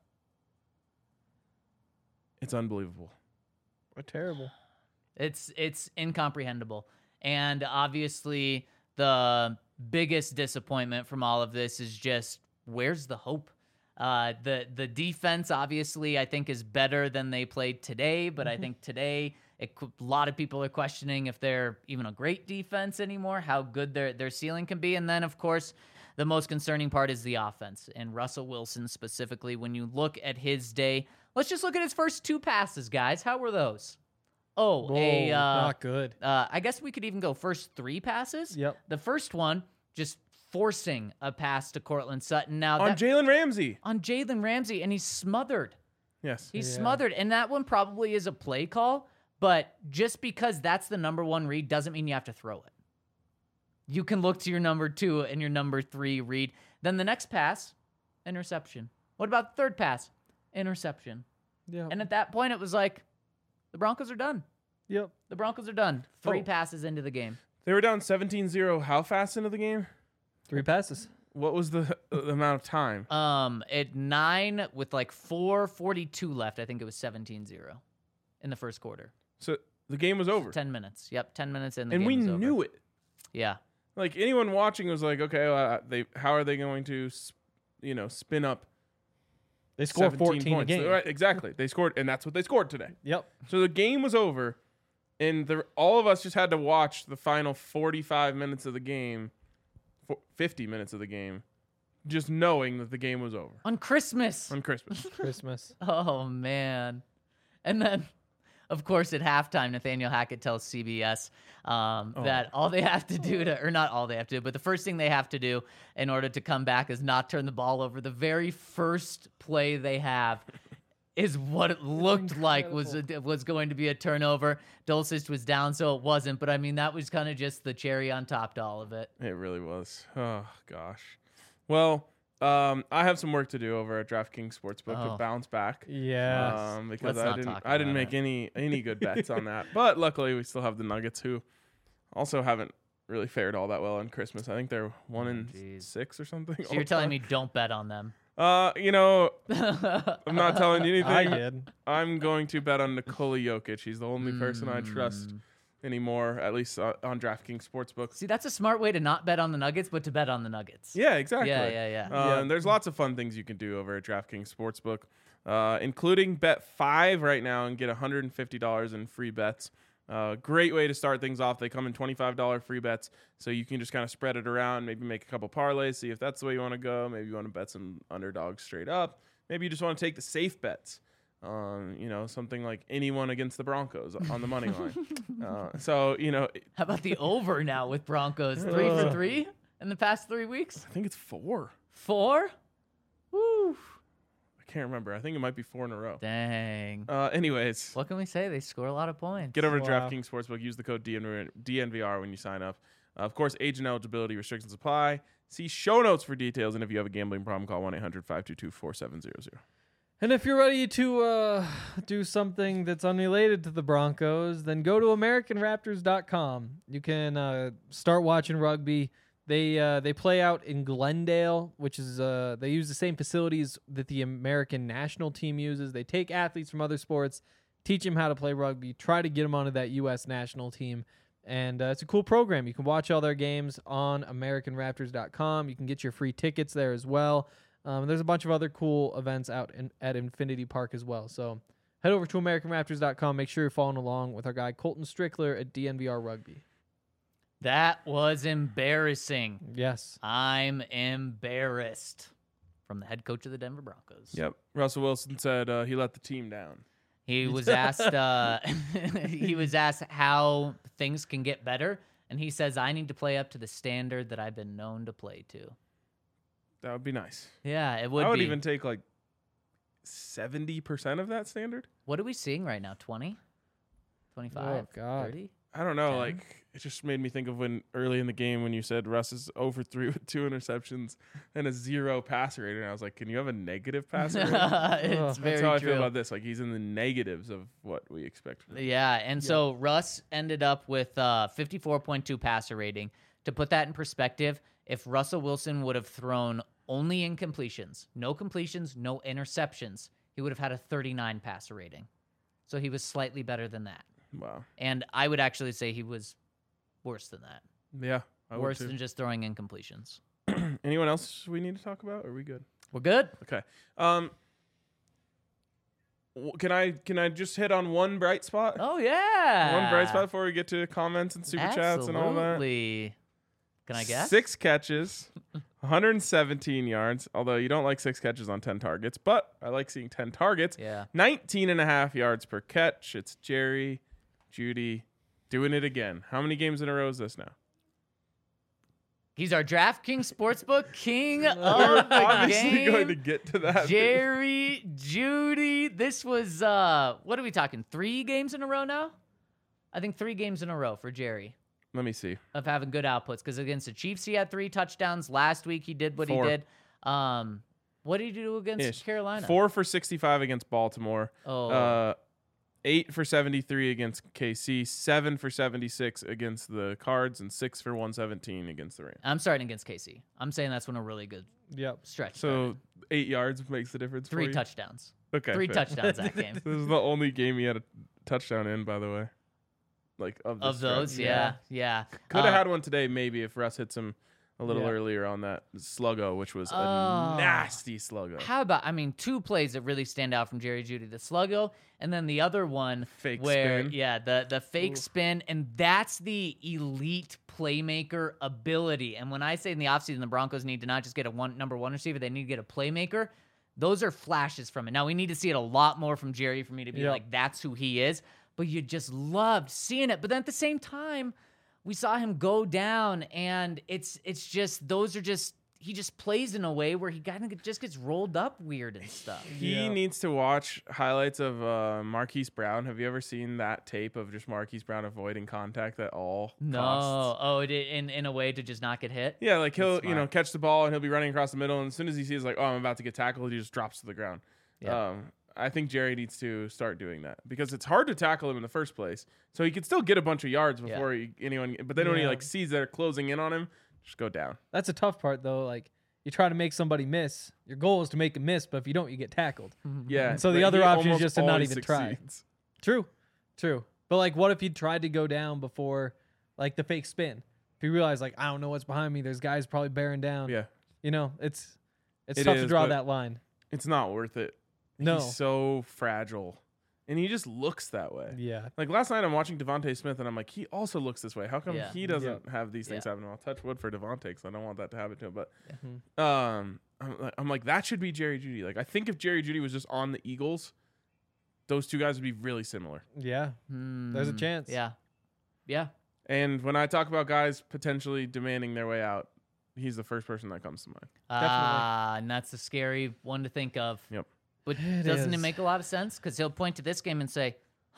It's unbelievable. Terrible. It's incomprehensible. And obviously the biggest disappointment from all of this is just where's the hope? The defense, obviously, I think is better than they played today, but I think today a lot of people are questioning if they're even a great defense anymore, how good their ceiling can be. And then, of course, the most concerning part is the offense, and Russell Wilson specifically. When you look at his day, let's just look at his first 2 passes, guys. How were those? Not good. I guess we could even go first 3 passes. Yep. The first one, just forcing a pass to Cortland Sutton. Now On Jalen Ramsey. On Jalen Ramsey, and he's smothered. Yes. He's smothered, and that one probably is a play call, but just because that's the number 1 read doesn't mean you have to throw it. You can look to your number 2 and your number 3 read. Then the next pass, interception. What about the third pass? Interception. Yeah. And at that point, it was like, the Broncos are done. Yep. The Broncos are done. 3 passes into the game. They were down 17-0 how fast into the game? 3 passes. What was the amount of time? At 9 with like 4:42 left, I think it was 17-0 in the first quarter. So the game was over. 10 minutes. Yep, 10 minutes in the And game we was over. knew it. Yeah. Like anyone watching was like, okay, well, how are they going to, spin up? They scored 17 14 a points. game. Right, exactly. They scored, and that's what they scored today. Yep. So the game was over, and all of us just had to watch the final 45 minutes of the game, 50 minutes of the game, just knowing that the game was over. On Christmas. On Christmas. Christmas. Oh, man. And then, of course, at halftime, Nathaniel Hackett tells CBS that all they have to do or not all they have to do, but the first thing they have to do in order to come back is not turn the ball over. The very first play they have is what it looked like was going to be a turnover. Dulcich was down, so it wasn't. But, I mean, that was kind of just the cherry on top to all of it. It really was. Oh, gosh. Well, I have some work to do over at DraftKings Sportsbook to bounce back. Yes. Because Let's I didn't make any good bets on that. But luckily, we still have the Nuggets, who also haven't really fared all that well on Christmas. I think they're 1-6 or something. So you're telling me don't bet on them? I'm not telling you anything. I did. I'm going to bet on Nikola Jokic. He's the only person I trust anymore, at least on DraftKings Sportsbook. See, that's a smart way to not bet on the Nuggets, but to bet on the Nuggets. Yeah, exactly. Yeah. And there's lots of fun things you can do over at DraftKings Sportsbook, including bet 5 right now and get $150 in free bets. Great way to start things off. They come in $25 free bets, so you can just kind of spread it around, maybe make a couple parlays, see if that's the way you want to go. Maybe you want to bet some underdogs straight up. Maybe you just want to take the safe bets. Something like anyone against the Broncos on the money line. How about the over now with Broncos? 3 for 3 in the past 3 weeks? I think it's 4. 4? Woo. I can't remember. I think it might be 4 in a row. Dang. Anyways, What can we say? They score a lot of points. get over to Wow. DraftKings Sportsbook. Use the code DNVR when you sign up. Of course, age and eligibility restrictions apply. See show notes for details. And if you have a gambling problem, call 1-800-522-4700. And if you're ready to do something that's unrelated to the Broncos, then go to AmericanRaptors.com. You can start watching rugby. They play out in Glendale, which is they use the same facilities that the American national team uses. They take athletes from other sports, teach them how to play rugby, try to get them onto that U.S. national team. And it's a cool program. You can watch all their games on AmericanRaptors.com. You can get your free tickets there as well. There's a bunch of other cool events out at Infinity Park as well. So head over to AmericanRaptors.com. Make sure you're following along with our guy Colton Strickler at DNVR Rugby. That was embarrassing. Yes. I'm embarrassed from the head coach of the Denver Broncos. Yep. Russell Wilson said he let the team down. He was asked how things can get better, and he says, I need to play up to the standard that I've been known to play to. That would be nice. Yeah, it would I would be. even take like 70% of that standard. What are we seeing right now? 20? 25? Oh, God. 30? I don't know. 10? Like, it just made me think of when early in the game when you said Russ is 0-3 with 2 interceptions and a 0 passer rating. And I was like, can you have a negative passer rating? It's very That's how I true. feel about this. Like, he's in the negatives of what we expect from him. Yeah, and so Russ ended up with 54.2 passer rating. To put that in perspective, if Russell Wilson would have thrown only incompletions, no completions, no interceptions, he would have had a 39 passer rating. So he was slightly better than that. Wow. And I would actually say he was worse than that. Yeah. I would Worse too. than just throwing incompletions. Anyone else we need to talk about? Or are we good? We're good. Okay. Can I just hit on one bright spot? Oh yeah. One bright spot before we get to comments and super chats and all that. Absolutely. Can I guess? 6 catches, 117 yards. Although you don't like 6 catches on 10 targets, but I like seeing 10 targets. Yeah. 19.5 yards per catch. It's Jerry Jeudy doing it again. How many games in a row is this now? He's our DraftKings Sportsbook king of We're the obviously game. going to get to that. Jerry Jeudy. This was what are we talking? 3 games in a row now? I think 3 games in a row for Jerry Let me see. of having good outputs. Because against the Chiefs, he had 3 touchdowns. Last week, he did what 4. he did. What did he do against Ish. Carolina? 4 for 65 against Baltimore. Oh, 8 for 73 against KC. 7 for 76 against the Cards, and 6 for 117 against the Rams. I'm starting against KC. I'm saying that's when a really good Yep. stretch. So 8 yards makes the difference. 3 for you? touchdowns. Okay. 3 fair. touchdowns that game. This is the only game he had a touchdown in, by the way. Like of, Of those, yeah. Could have had one today, maybe, if Russ hits him a little Yeah. earlier on that sluggo, which was Oh. a nasty sluggo. How about, 2 plays that really stand out from Jerry Jeudy, the sluggo, and then the other one Fake where, spin. yeah, the fake spin, and that's the elite playmaker ability. And when I say in the offseason the Broncos need to not just get a number 1 receiver, they need to get a playmaker. Those are flashes from it. Now, we need to see it a lot more from Jerry for me to be Yep. like, that's who he is. But you just loved seeing it. But then at the same time, we saw him go down, and it's just, those are just, he just plays in a way where he kind of just gets rolled up weird and stuff. He Yeah. needs to watch highlights of Marquise Brown. Have you ever seen that tape of just Marquise Brown avoiding contact at all No. costs? Oh, it in a way to just not get hit? Yeah, like he'll smart. catch the ball and he'll be running across the middle, and as soon as he sees like, oh, I'm about to get tackled, he just drops to the ground. Yeah. I think Jerry needs to start doing that because it's hard to tackle him in the first place. So he can still get a bunch of yards before anyone. But then when he Yeah. like sees they're closing in on him, just go down. That's a tough part though. Like you try to make somebody miss. Your goal is to make a miss, but if you don't, you get tackled. Yeah. And so the but other he option is almost just to not always even try. succeeds. True. But like, what if you tried to go down before, like the fake spin? If you realize, like, I don't know what's behind me. There's guys probably bearing down. Yeah, It's It tough is, to draw but- that line. it's not worth it. No. He's so fragile, and he just looks that way. Yeah. Like last night, I'm watching Devontae Smith, and I'm like, he also looks this way. How come Yeah. he doesn't have these things Yeah. happen? I'll touch wood for Devontae because I don't want that to happen to him. But Yeah. I'm like, that should be Jerry Jeudy. Like, I think if Jerry Jeudy was just on the Eagles, those two guys would be really similar. Yeah. There's a chance. Yeah. And when I talk about guys potentially demanding their way out, he's the first person that comes to mind. And that's a scary one to think of. Yep. But It doesn't it is. make a lot of sense? Because he'll point to this game and say,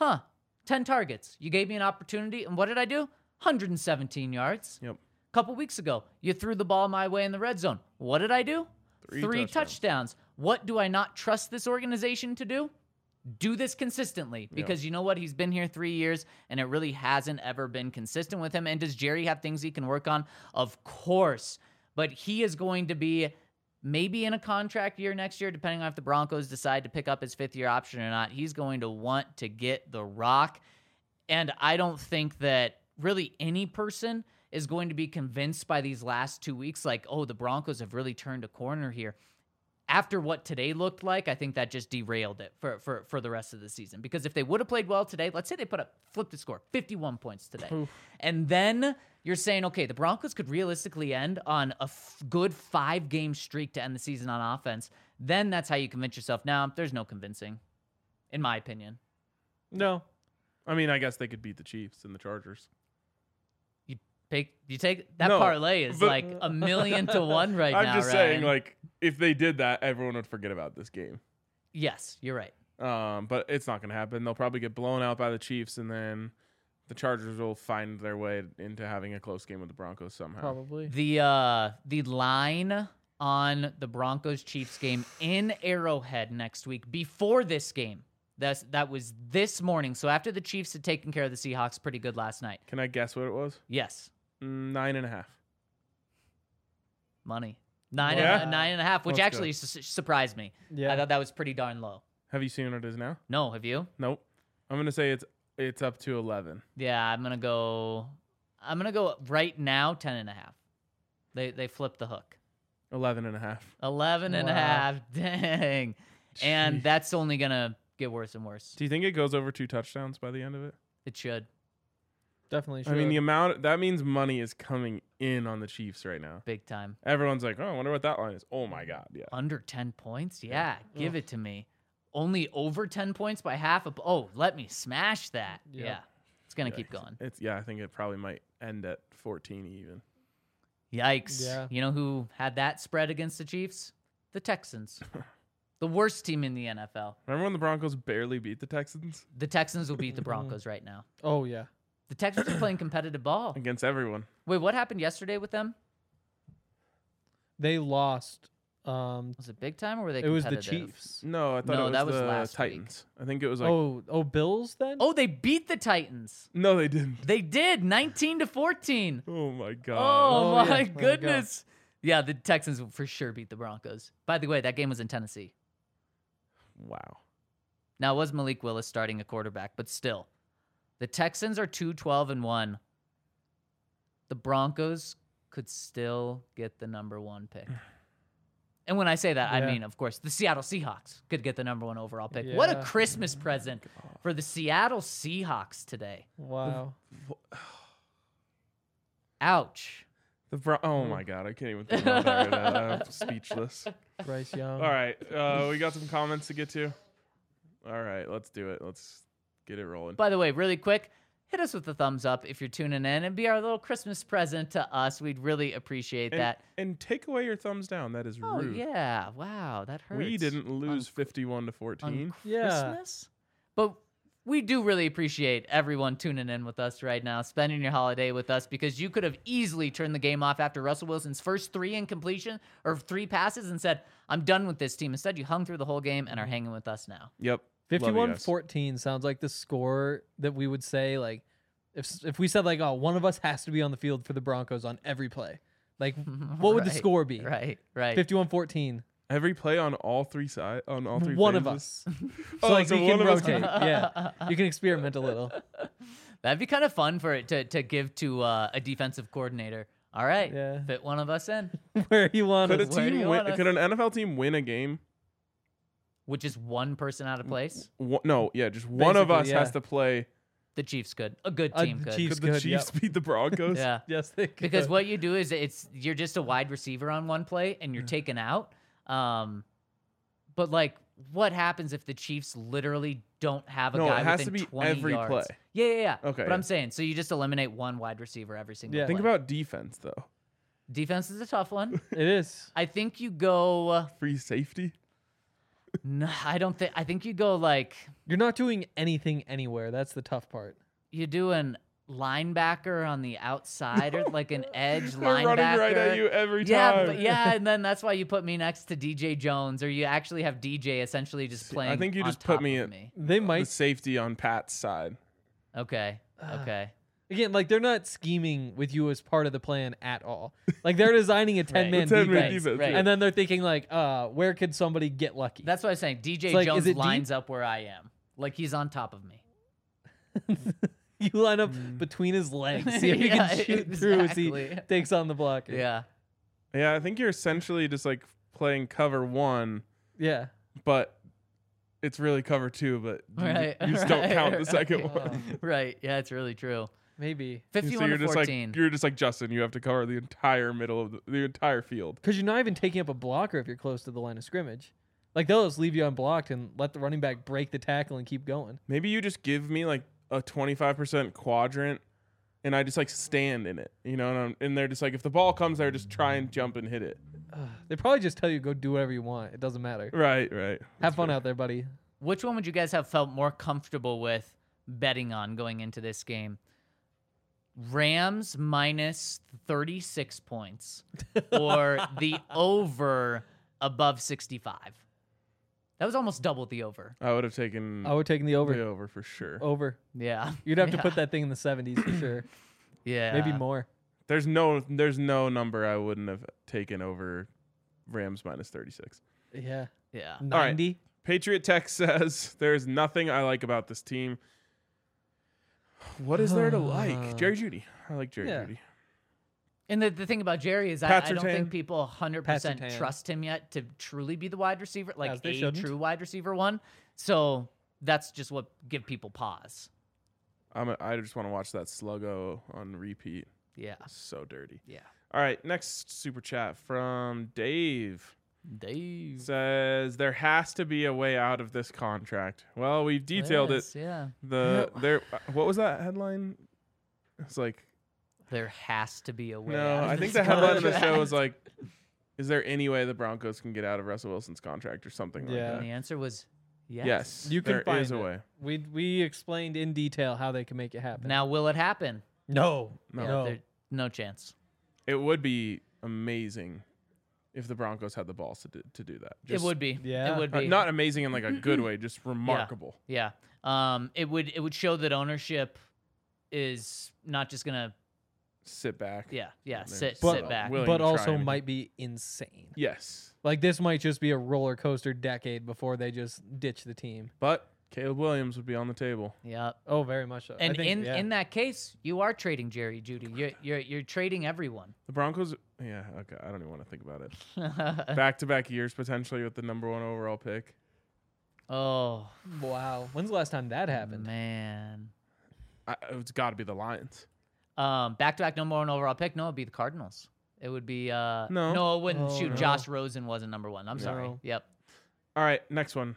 10 targets. You gave me an opportunity, and what did I do? 117 yards. Yep. A couple weeks ago, you threw the ball my way in the red zone. What did I do? 3 touchdowns. What do I not trust this organization to do? Do this consistently, because you know what? He's been here 3 years, and it really hasn't ever been consistent with him. And does Jerry have things he can work on? Of course. But he is going to be maybe in a contract year next year, depending on if the Broncos decide to pick up his 5th-year option or not. He's going to want to get the rock. And I don't think that really any person is going to be convinced by these last 2 weeks, like, oh, the Broncos have really turned a corner here. After what today looked like, I think that just derailed it for the rest of the season. Because if they would have played well today, let's say they flipped the score, 51 points today. And then you're saying, okay, the Broncos could realistically end on a good 5-game streak to end the season on offense. Then that's how you convince yourself. Now, there's no convincing, in my opinion. No. I mean, I guess they could beat the Chiefs and the Chargers. You take that No, parlay is but- like 1,000,000 to 1 right now. I'm just saying, Ryan. like, if they did that, everyone would forget about this game. Yes, you're right. But it's not going to happen. They'll probably get blown out by the Chiefs, and then the Chargers will find their way into having a close game with the Broncos somehow. Probably. The line on the Broncos Chiefs game in Arrowhead next week before this game. That was this morning. So after the Chiefs had taken care of the Seahawks pretty good last night. Can I guess what it was? Yes, 9.5. money. Yeah? 9.5, which Let's actually surprised me. Yeah. I thought that was pretty darn low. Have you seen what it is now? No, have you? Nope. I'm going to say it's up to 11. Yeah, I'm gonna go right now 10.5. They flipped the hook. 11.5. 11 and a Wow. half. Dang. And Jeez. that's only going to get worse and worse. Do you think it goes over 2 touchdowns by the end of it? It should. Definitely should. I mean, the amount that means money is coming in on the Chiefs right now. Big time. Everyone's like, "Oh, I wonder what that line is." Oh my god, yeah. Under 10 points? Yeah, give it to me. Only over 10 points by half. Oh, let me smash that. Yep. Yeah. It's going to Yeah, keep going. I think it probably might end at 14 even. Yikes. Yeah. You know who had that spread against the Chiefs? The Texans. The worst team in the NFL. Remember when the Broncos barely beat the Texans The Texans will beat the Broncos right now. Oh yeah. The Texans are playing competitive ball. against everyone? Wait, what happened yesterday with them? They lost. Was it big time or were they It was the competitive? Chiefs. No, I thought No, it was that was the last week. Titans. I think it was like Oh, Bills then? Oh, they beat the Titans. no, they didn't. They did 19-14. Oh my god. Oh, Oh, my yeah. There you go. goodness. Yeah, the Texans will for sure beat the Broncos. By the way, that game was in Tennessee. Wow. Now, it was Malik Willis starting a quarterback, but still. The Texans are 2-12-1. The Broncos could still get the number 1 pick. And when I say that, I Yeah. mean, of course, the Seattle Seahawks could get the number 1 overall pick. What a Yeah. Christmas present for the Seattle Seahawks today. Wow. Ouch. Oh my god, I can't even think about that right now. I'm speechless. Bryce Young. All right, we got some comments to get to. All right, let's do it. Let's get it rolling. By the way, really quick, hit us with a thumbs up if you're tuning in and be our little Christmas present to us. We'd really appreciate that. And take away your thumbs down. That is Oh, rude. yeah. Wow, that hurts. We didn't lose 51 to 14. on Yeah. Christmas. But we do really appreciate everyone tuning in with us right now, spending your holiday with us, because you could have easily turned the game off after Russell Wilson's first 3 incompletion or 3 passes and said, I'm done with this team. Instead, you hung through the whole game and are hanging with us now. Yep. Love you guys. 51-14 sounds like the score that we would say, like, if we said, like, oh, one of us has to be on the field for the Broncos on every play. Like, what would the Right, score be? Right. 51-14. Every play on all 3 sides, on all 3 One of phases? us. So, Oh, like, so you can one of us- rotate. Yeah. You can experiment a little. That'd be kind of fun for it to give to a defensive coordinator. All right, Yeah. fit one of us in, Where you want Could a us. Where do team you win? want us? Could an NFL team win a game? which is one person out of place. No, yeah, just one of us Basically, has yeah. to play. The Chiefs could. A good The team could. Chiefs Could the could, Chiefs beat the Broncos? Yeah. Yes, they could. Because what you do is you're just a wide receiver on one play and you're taken out. But like, what happens if the Chiefs literally don't have a No, guy it has within to be 20 every yards? play. Yeah. Okay, But yeah. I'm saying, so you just eliminate one wide receiver every single Yeah. play. Think about defense though. Defense is a tough one. It is. I think you go. Free safety. No, I don't think. I think you go like You're not doing anything anywhere. That's the tough part. you do an linebacker on the outside or like an edge They're linebacker. running right at you every Yeah, time. but yeah, and then that's why you put me next to DJ Jones, or you actually have DJ essentially just playing. I think you on just put top me of at- They The might. safety on Pat's side. Okay. Okay. Again, like, they're not scheming with you as part of the plan at all. Like, they're designing a 10-man The 10-man defense. defense, right. yeah. And then they're thinking, like, where could somebody get lucky? That's what I was saying. DJ like, is Jones it deep? lines up where I am. Like he's on top of me. You line up between his legs. See if you Yeah, can shoot through as he exactly. takes on the blocker. Yeah. Yeah, I think you're essentially just like playing cover 1, Yeah. but it's really cover 2. But Right. you just don't right, count the second right. one. Right. Yeah, it's really true. Maybe. 51 So you're to just 14. like Justin. You have to cover the entire middle of the entire field. Because you're not even taking up a blocker if you're close to the line of scrimmage. Like, they'll just leave you unblocked and let the running back break the tackle and keep going. Maybe you just give me like a 25% quadrant, and I just like stand in it, you know. And they're just like, if the ball comes there, just try and jump and hit it. They probably just tell you go do whatever you want. It doesn't matter. Right. Have fun out there, buddy. Which one would you guys have felt more comfortable with betting on going into this game? Rams minus 36 points or the over above 65? That was almost double the over. I would have taken I would take the the over. over for sure. Over. Yeah. You'd have to Yeah. put that thing in the 70s for sure. Yeah. Maybe more. There's no number I wouldn't have taken over Rams minus 36. Yeah. Yeah. 90. Patriot Tech says there's nothing I like about this team. What is there to like? Jerry Jeudy. I like Jerry Yeah. Jeudy. And the thing about Jerry is I Pat don't Surtain. think people 100% Surtain. trust him yet to truly be the wide receiver, As like they a shouldn't. true wide receiver one. So that's just what give people pause. I just want to watch that Sluggo on repeat. Yeah. So dirty. Yeah. All right, next super chat from Dave. Dave. Says there has to be a way out of this contract. Well, we've detailed it. Yeah. What was that headline? It's like There has to be a way no. out of I think this the headline of the contract. show was like, "Is there any way the Broncos can get out of Russell Wilson's contract or something Yeah. like And the that?" answer was yes. Yes, You can there find is a it. way. We explained in detail how they can make it happen. Now, will it happen? No. Yeah, no chance. It would be amazing if the Broncos had the balls to do that. It would be. Yeah. It would be. Not amazing in like a good way, just remarkable. Yeah. It would show that ownership is not just gonna Sit back. sit But, back. willing but to try also anything. might be insane. Yes, Like this might just be a roller coaster decade before they just ditch the team. but Caleb Williams would be on the table. Yeah. Oh, very much so. I And think, in that case, you are trading Jerry Jeudy. You're trading everyone. The Broncos, yeah, okay, I don't even want to think about it. Back-to-back years potentially with the number 1 overall pick. Oh wow. When's the last time that happened? man. It's got to be the Lions. Back-to-back number 1 overall pick. No, it'd be the Cardinals. It would be no, it wouldn't. Oh, Shoot, no. Josh Rosen wasn't number 1. I'm sorry. No. Yep. All right, next one.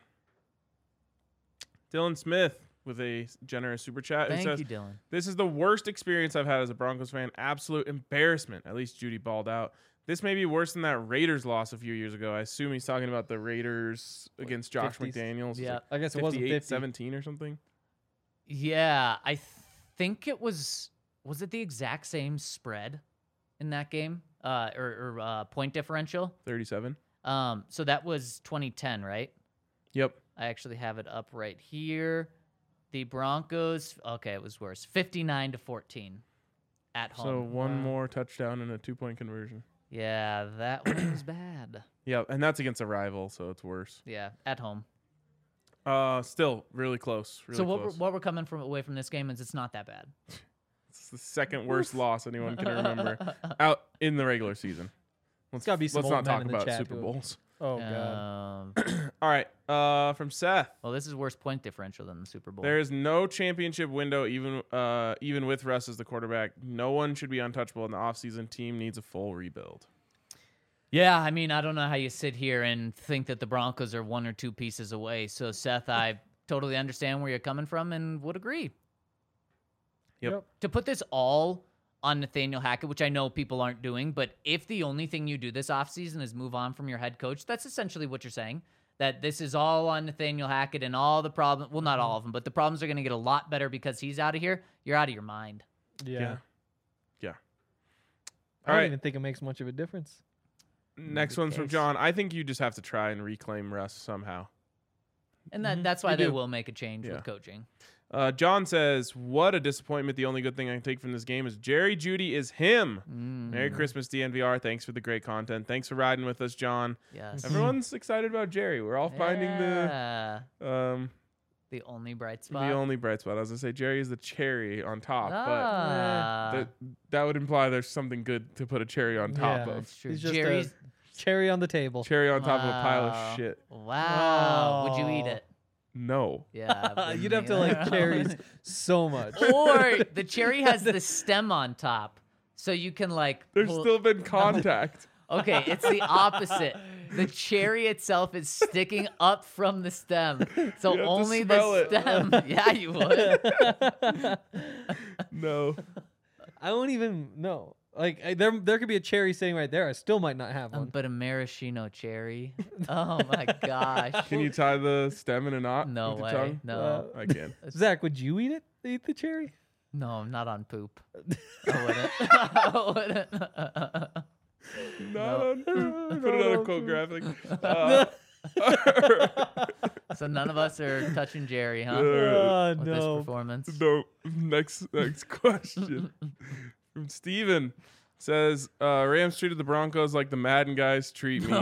Dylan Smith with a generous super chat. It Thank says, you, Dylan. "This is the worst experience I've had as a Broncos fan. Absolute embarrassment. At least Judy balled out. This may be worse than that Raiders loss a few years ago. I assume he's talking about the Raiders against Josh 50s? McDaniels. It's Yeah. like I guess it wasn't 50. 58-17 or something. Yeah, I think it was. Was it the exact same spread in that game? Or point differential? 37. So that was 2010, right? Yep. I actually have it up right here. The Broncos. Okay, it was worse. 59-14 at home. So one more touchdown and a 2-point conversion. Yeah, that one was bad. Yeah, and that's against a rival, so it's worse. Yeah, at home. Still really close. Really So close. what we're coming from away from this game is it's not that bad. It's the second worst loss anyone can remember out in the regular season. gotta be some let's old not men talk in the about chat Super who- Bowls. Oh god. All right, from Seth. Well, this is worse point differential than the Super Bowl. There is no championship window, even with Russ as the quarterback. No one should be untouchable in the offseason. Team needs a full rebuild. Yeah, I mean, I don't know how you sit here and think that the Broncos are 1 or 2 pieces away. So, Seth, I totally understand where you're coming from and would agree. Yep. To put this all on Nathaniel Hackett, which I know people aren't doing, but if the only thing you do this offseason is move on from your head coach, that's essentially what you're saying. That this is all on Nathaniel Hackett and all the problems. Well, not all of them, but the problems are going to get a lot better because he's out of here. You're out of your mind. Yeah. Yeah. I All don't right. even think it makes much of a difference. Next the one's from case. John. I think you just have to try and reclaim Russ somehow. And that's why You they do. will make a change Yeah. with coaching. John says, "What a disappointment. The only good thing I can take from this game is Jerry Jeudy is him." Merry Christmas, DNVR. Thanks for the great content. Thanks for riding with us, John. Yes. Everyone's excited about Jerry. We're all finding Yeah. the the only bright spot. only bright spot. I was gonna say Jerry is the cherry on top, Ah, but that would imply there's something good to put a cherry on top Yeah. of. that's true. He's just Jerry's. a cherry on the table. Cherry on top of a pile Wow. of shit. Wow. Would you eat Oh. it? No. Yeah. You'd have to like cherries so much. Or the cherry has the stem on top, so you can like. There's pull- still been contact. Okay, it's the opposite. The cherry itself is sticking up from the stem, so You have to only smell the it. stem. Yeah, you would. No. I don't even know. Like there could be a cherry sitting right there. I still might not have one. But a maraschino cherry. Oh my gosh. Can you tie the stem in a knot No with way. your tongue? No. I can. Zach, would you eat it? Eat the cherry? No, not on poop. I wouldn't. I wouldn't. Not on food. Put it on a quote graphic. So none of us are touching Jerry, huh? Oh With this no. performance. No. Next question from Steven. Says Rams treated the Broncos like the Madden guys treat me. Stu.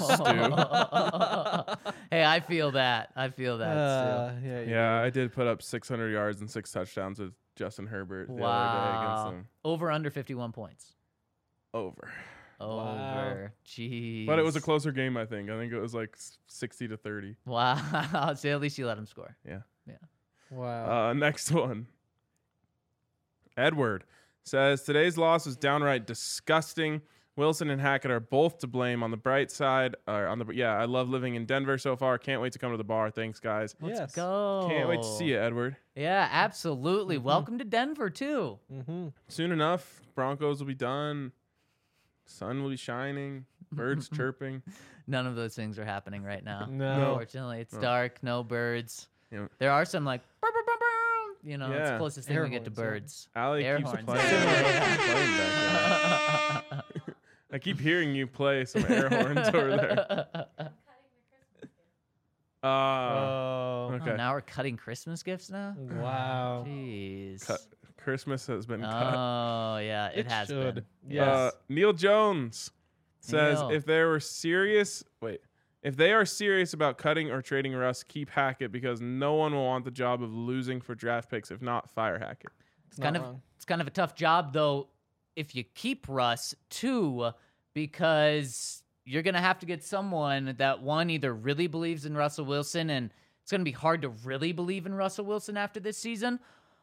Hey, I feel that. I feel that, Stu. Yeah. Yeah, I did put up 600 yards and 6 touchdowns with Justin Herbert the other day against Wow. them. Over under 51 points. Over. Over. Jeez. But it was a closer game, I think. I think it was like 60-30. Wow. So at least you let him score. Yeah. Wow. Next one. Edward says, today's loss was downright disgusting. Wilson and Hackett are both to blame. On the bright side, I love living in Denver so far. Can't wait to come to the bar. Thanks, guys. Let's go. Can't wait to see you, Edward. Yeah, absolutely. Welcome to Denver, too. Mm-hmm. Soon enough, Broncos will be done. Sun will be shining. Birds chirping. None of those things are happening right now. No. Unfortunately, it's dark, no birds. Yeah. There are some like, burr, burr, burr, burr. You know, it's Yeah. the closest thing Air we get to horns, yeah. birds. Allie Air keeps horns. playing. Playing back there. I keep hearing you play some air horns over there. Oh. Okay. Oh, now we're cutting Christmas gifts now? Wow. Jeez. Christmas has been cut. Oh, yeah, it has should. been. Yes. Neil Jones says Neil. if they are serious about cutting or trading Russ, keep Hackett because no one will want the job of losing for draft picks. If not, fire Hackett. It's kind of a tough job though if you keep Russ too, because you're gonna have to get someone that one either really believes in Russell Wilson, and it's gonna be hard to really believe in Russell Wilson after this season,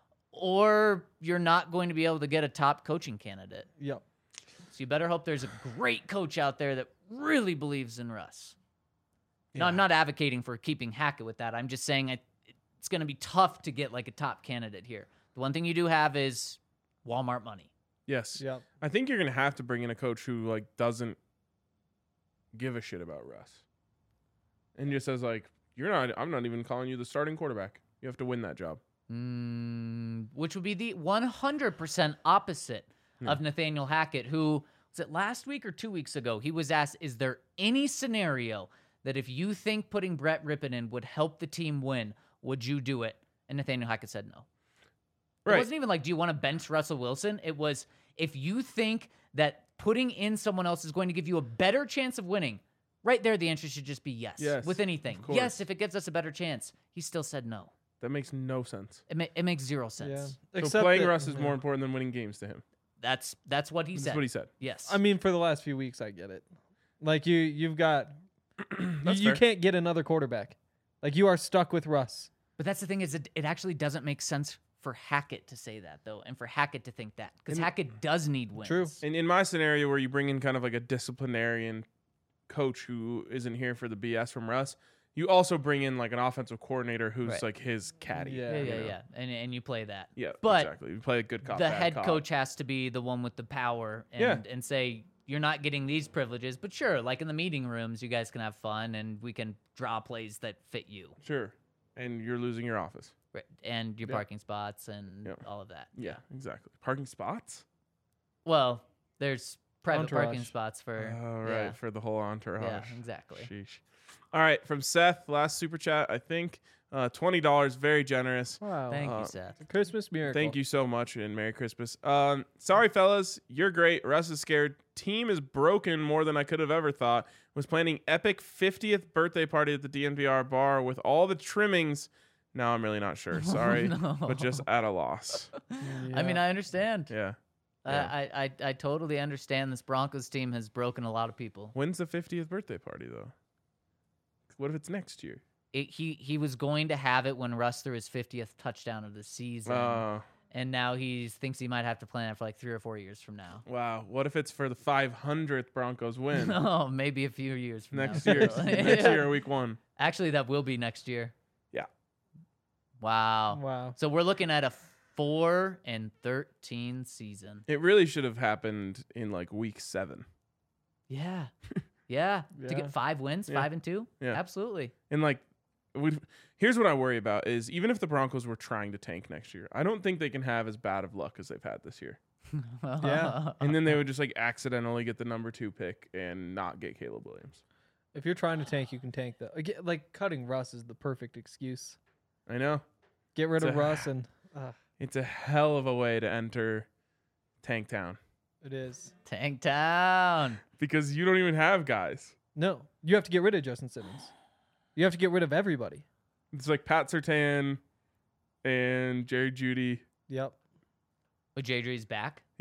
or you're not going to be able to get a top coaching candidate. Yep. So you better hope there's a great coach out there that really believes in Russ. No, I'm not advocating for keeping Hackett with that. I'm just saying it's going to be tough to get like a top candidate here. The one thing you do have is Walmart money. Yes. Yep. I think you're gonna have to bring in a coach who like doesn't give a shit about Russ, and just says like, I'm not even calling you the starting quarterback. You have to win that job. Which would be the 100% opposite of Nathaniel Hackett, who was it last week or 2 weeks ago? He was asked, is there any scenario that if you think putting Brett Rippon in would help the team win, would you do it? And Nathaniel Hackett said no. It wasn't even like, do you want to bench Russell Wilson? It was, if you think that putting in someone else is going to give you a better chance of winning, right there the answer should just be yes. Yes, With anything. of course. Yes, if it gives us a better chance. He still said no. That makes no sense. It makes zero sense. Yeah. So playing Russ is more important than winning games to him. That's what he said. That's what he said. Yes. I mean, for the last few weeks, I get it. Like you've got, That's you fair. can't get another quarterback. Like you are stuck with Russ. But that's the thing is it actually doesn't make sense for Hackett to say that, though, and for Hackett to think that. Because Hackett does need wins. True. And in my scenario where you bring in kind of like a disciplinarian coach who isn't here for the BS from Russ, you also bring in like an offensive coordinator who's Right. like his caddy. Yeah. Yeah, you yeah, know? yeah. And you play that. Yeah, But exactly. You play a good cop, the bad head cop. coach has to be the one with the power and say, you're not getting these privileges. But sure, like in the meeting rooms, you guys can have fun and we can draw plays that fit you. Sure. And you're losing your office. Right. And your Yeah. parking spots and Yeah. all of that. Yeah, exactly. Parking spots? Well, there's private Entourage. parking spots for. Oh, right. Yeah, For the whole entourage. yeah, exactly. Sheesh. All right. From Seth, last super chat, I think. $20, very generous. Wow. Thank you, Seth. Christmas miracle. Thank you so much and Merry Christmas. Sorry, fellas. You're great. Russ is scared. Team is broken more than I could have ever thought. Was planning epic 50th birthday party at the DNVR bar with all the trimmings. Now I'm really not sure. Sorry, no. but just at a loss. I mean, I understand. Yeah. I totally understand this Broncos team has broken a lot of people. When's the 50th birthday party, though? What if it's next year? He was going to have it when Russ threw his 50th touchdown of the season, and now he thinks he might have to plan it for like 3 or 4 years from now. Wow. What if it's for the 500th Broncos win Oh, maybe a few years from next now. year? So, Next yeah. year, week 1. Actually, that will be next year. Yeah. Wow. Wow. So we're looking at a 4-13 season. It really should have happened in like week 7. Yeah. Yeah. To Yeah. get 5 wins, Yeah. 5-2. Yeah. Absolutely. And like, here's what I worry about is even if the Broncos were trying to tank next year, I don't think they can have as bad of luck as they've had this year. Yeah. And then they would just like accidentally get the number 2 pick and not get Caleb Williams. If you're trying to tank, you can tank though. Like cutting Russ is the perfect excuse. I know. Get rid It's of a- Russ and It's a hell of a way to enter Tank Town it is. Tank Town. because you don't even have guys. No, you have to get rid of Justin Simmons. You have to get rid of everybody. It's like Pat Surtain and Jerry Jeudy. Yep. Oh, J.J.'s back? Yeah.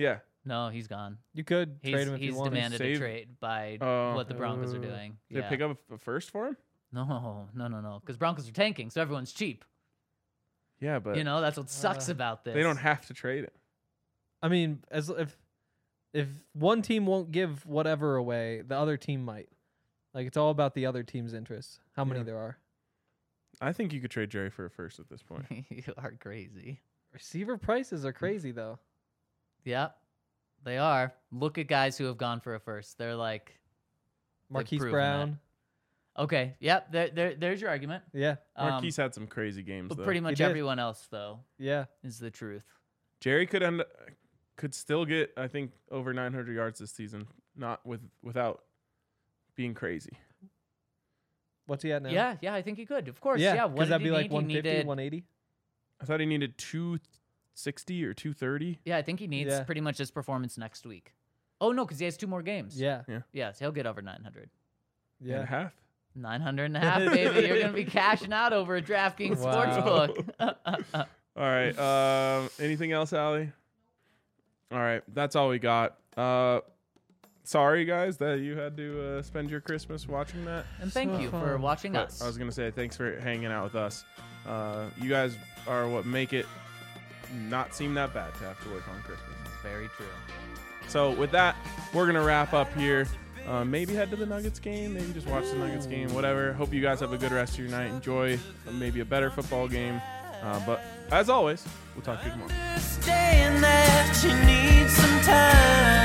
No, he's gone. You could trade him if He's you wanted. demanded a Save- trade by Oh. what the Broncos are doing. Did they pick up a first for him? No. Because Broncos are tanking, so everyone's cheap. Yeah, but That's what sucks about this. they don't have to trade it. I mean, as if one team won't give whatever away, the other team might. Like, it's all about the other team's interests. How many Yeah. there are. I think you could trade Jerry for a first at this point. You are crazy. Receiver prices are crazy, though. Yep, they are. Look at guys who have gone for a first. They're like, Marquise proven Brown. okay, yep. There's your argument. Yeah. Marquise had some crazy games, But though. pretty much did. everyone else, though, Yeah. is the truth. Jerry could still get, I think, over 900 yards this season, not without being crazy. What's he at now? Yeah, I think he could. Of course, Yeah. What Because did that'd he be like need? He 150, needed- 180. I thought he needed 260 or 230. Yeah, I think he needs Yeah. pretty much his performance next week. Oh no, because he has 2 more games. Yeah. Yes, he'll get over 900. And a Yeah. half. 900 and a half, baby. You're gonna be cashing out over a DraftKings Wow. sportsbook. All right. Anything else, Allie? All right. That's all we got. Sorry, guys, that you had to spend your Christmas watching that. And thank So you for fun. watching But us. I was going to say thanks for hanging out with us. You guys are what make it not seem that bad to have to work on Christmas. Very true. So with that, we're going to wrap up here. Maybe head to the Nuggets game. Maybe just watch the Nuggets game. Whatever. Hope you guys have a good rest of your night. Enjoy maybe a better football game. But as always, we'll talk to you tomorrow. Understand that you need some time.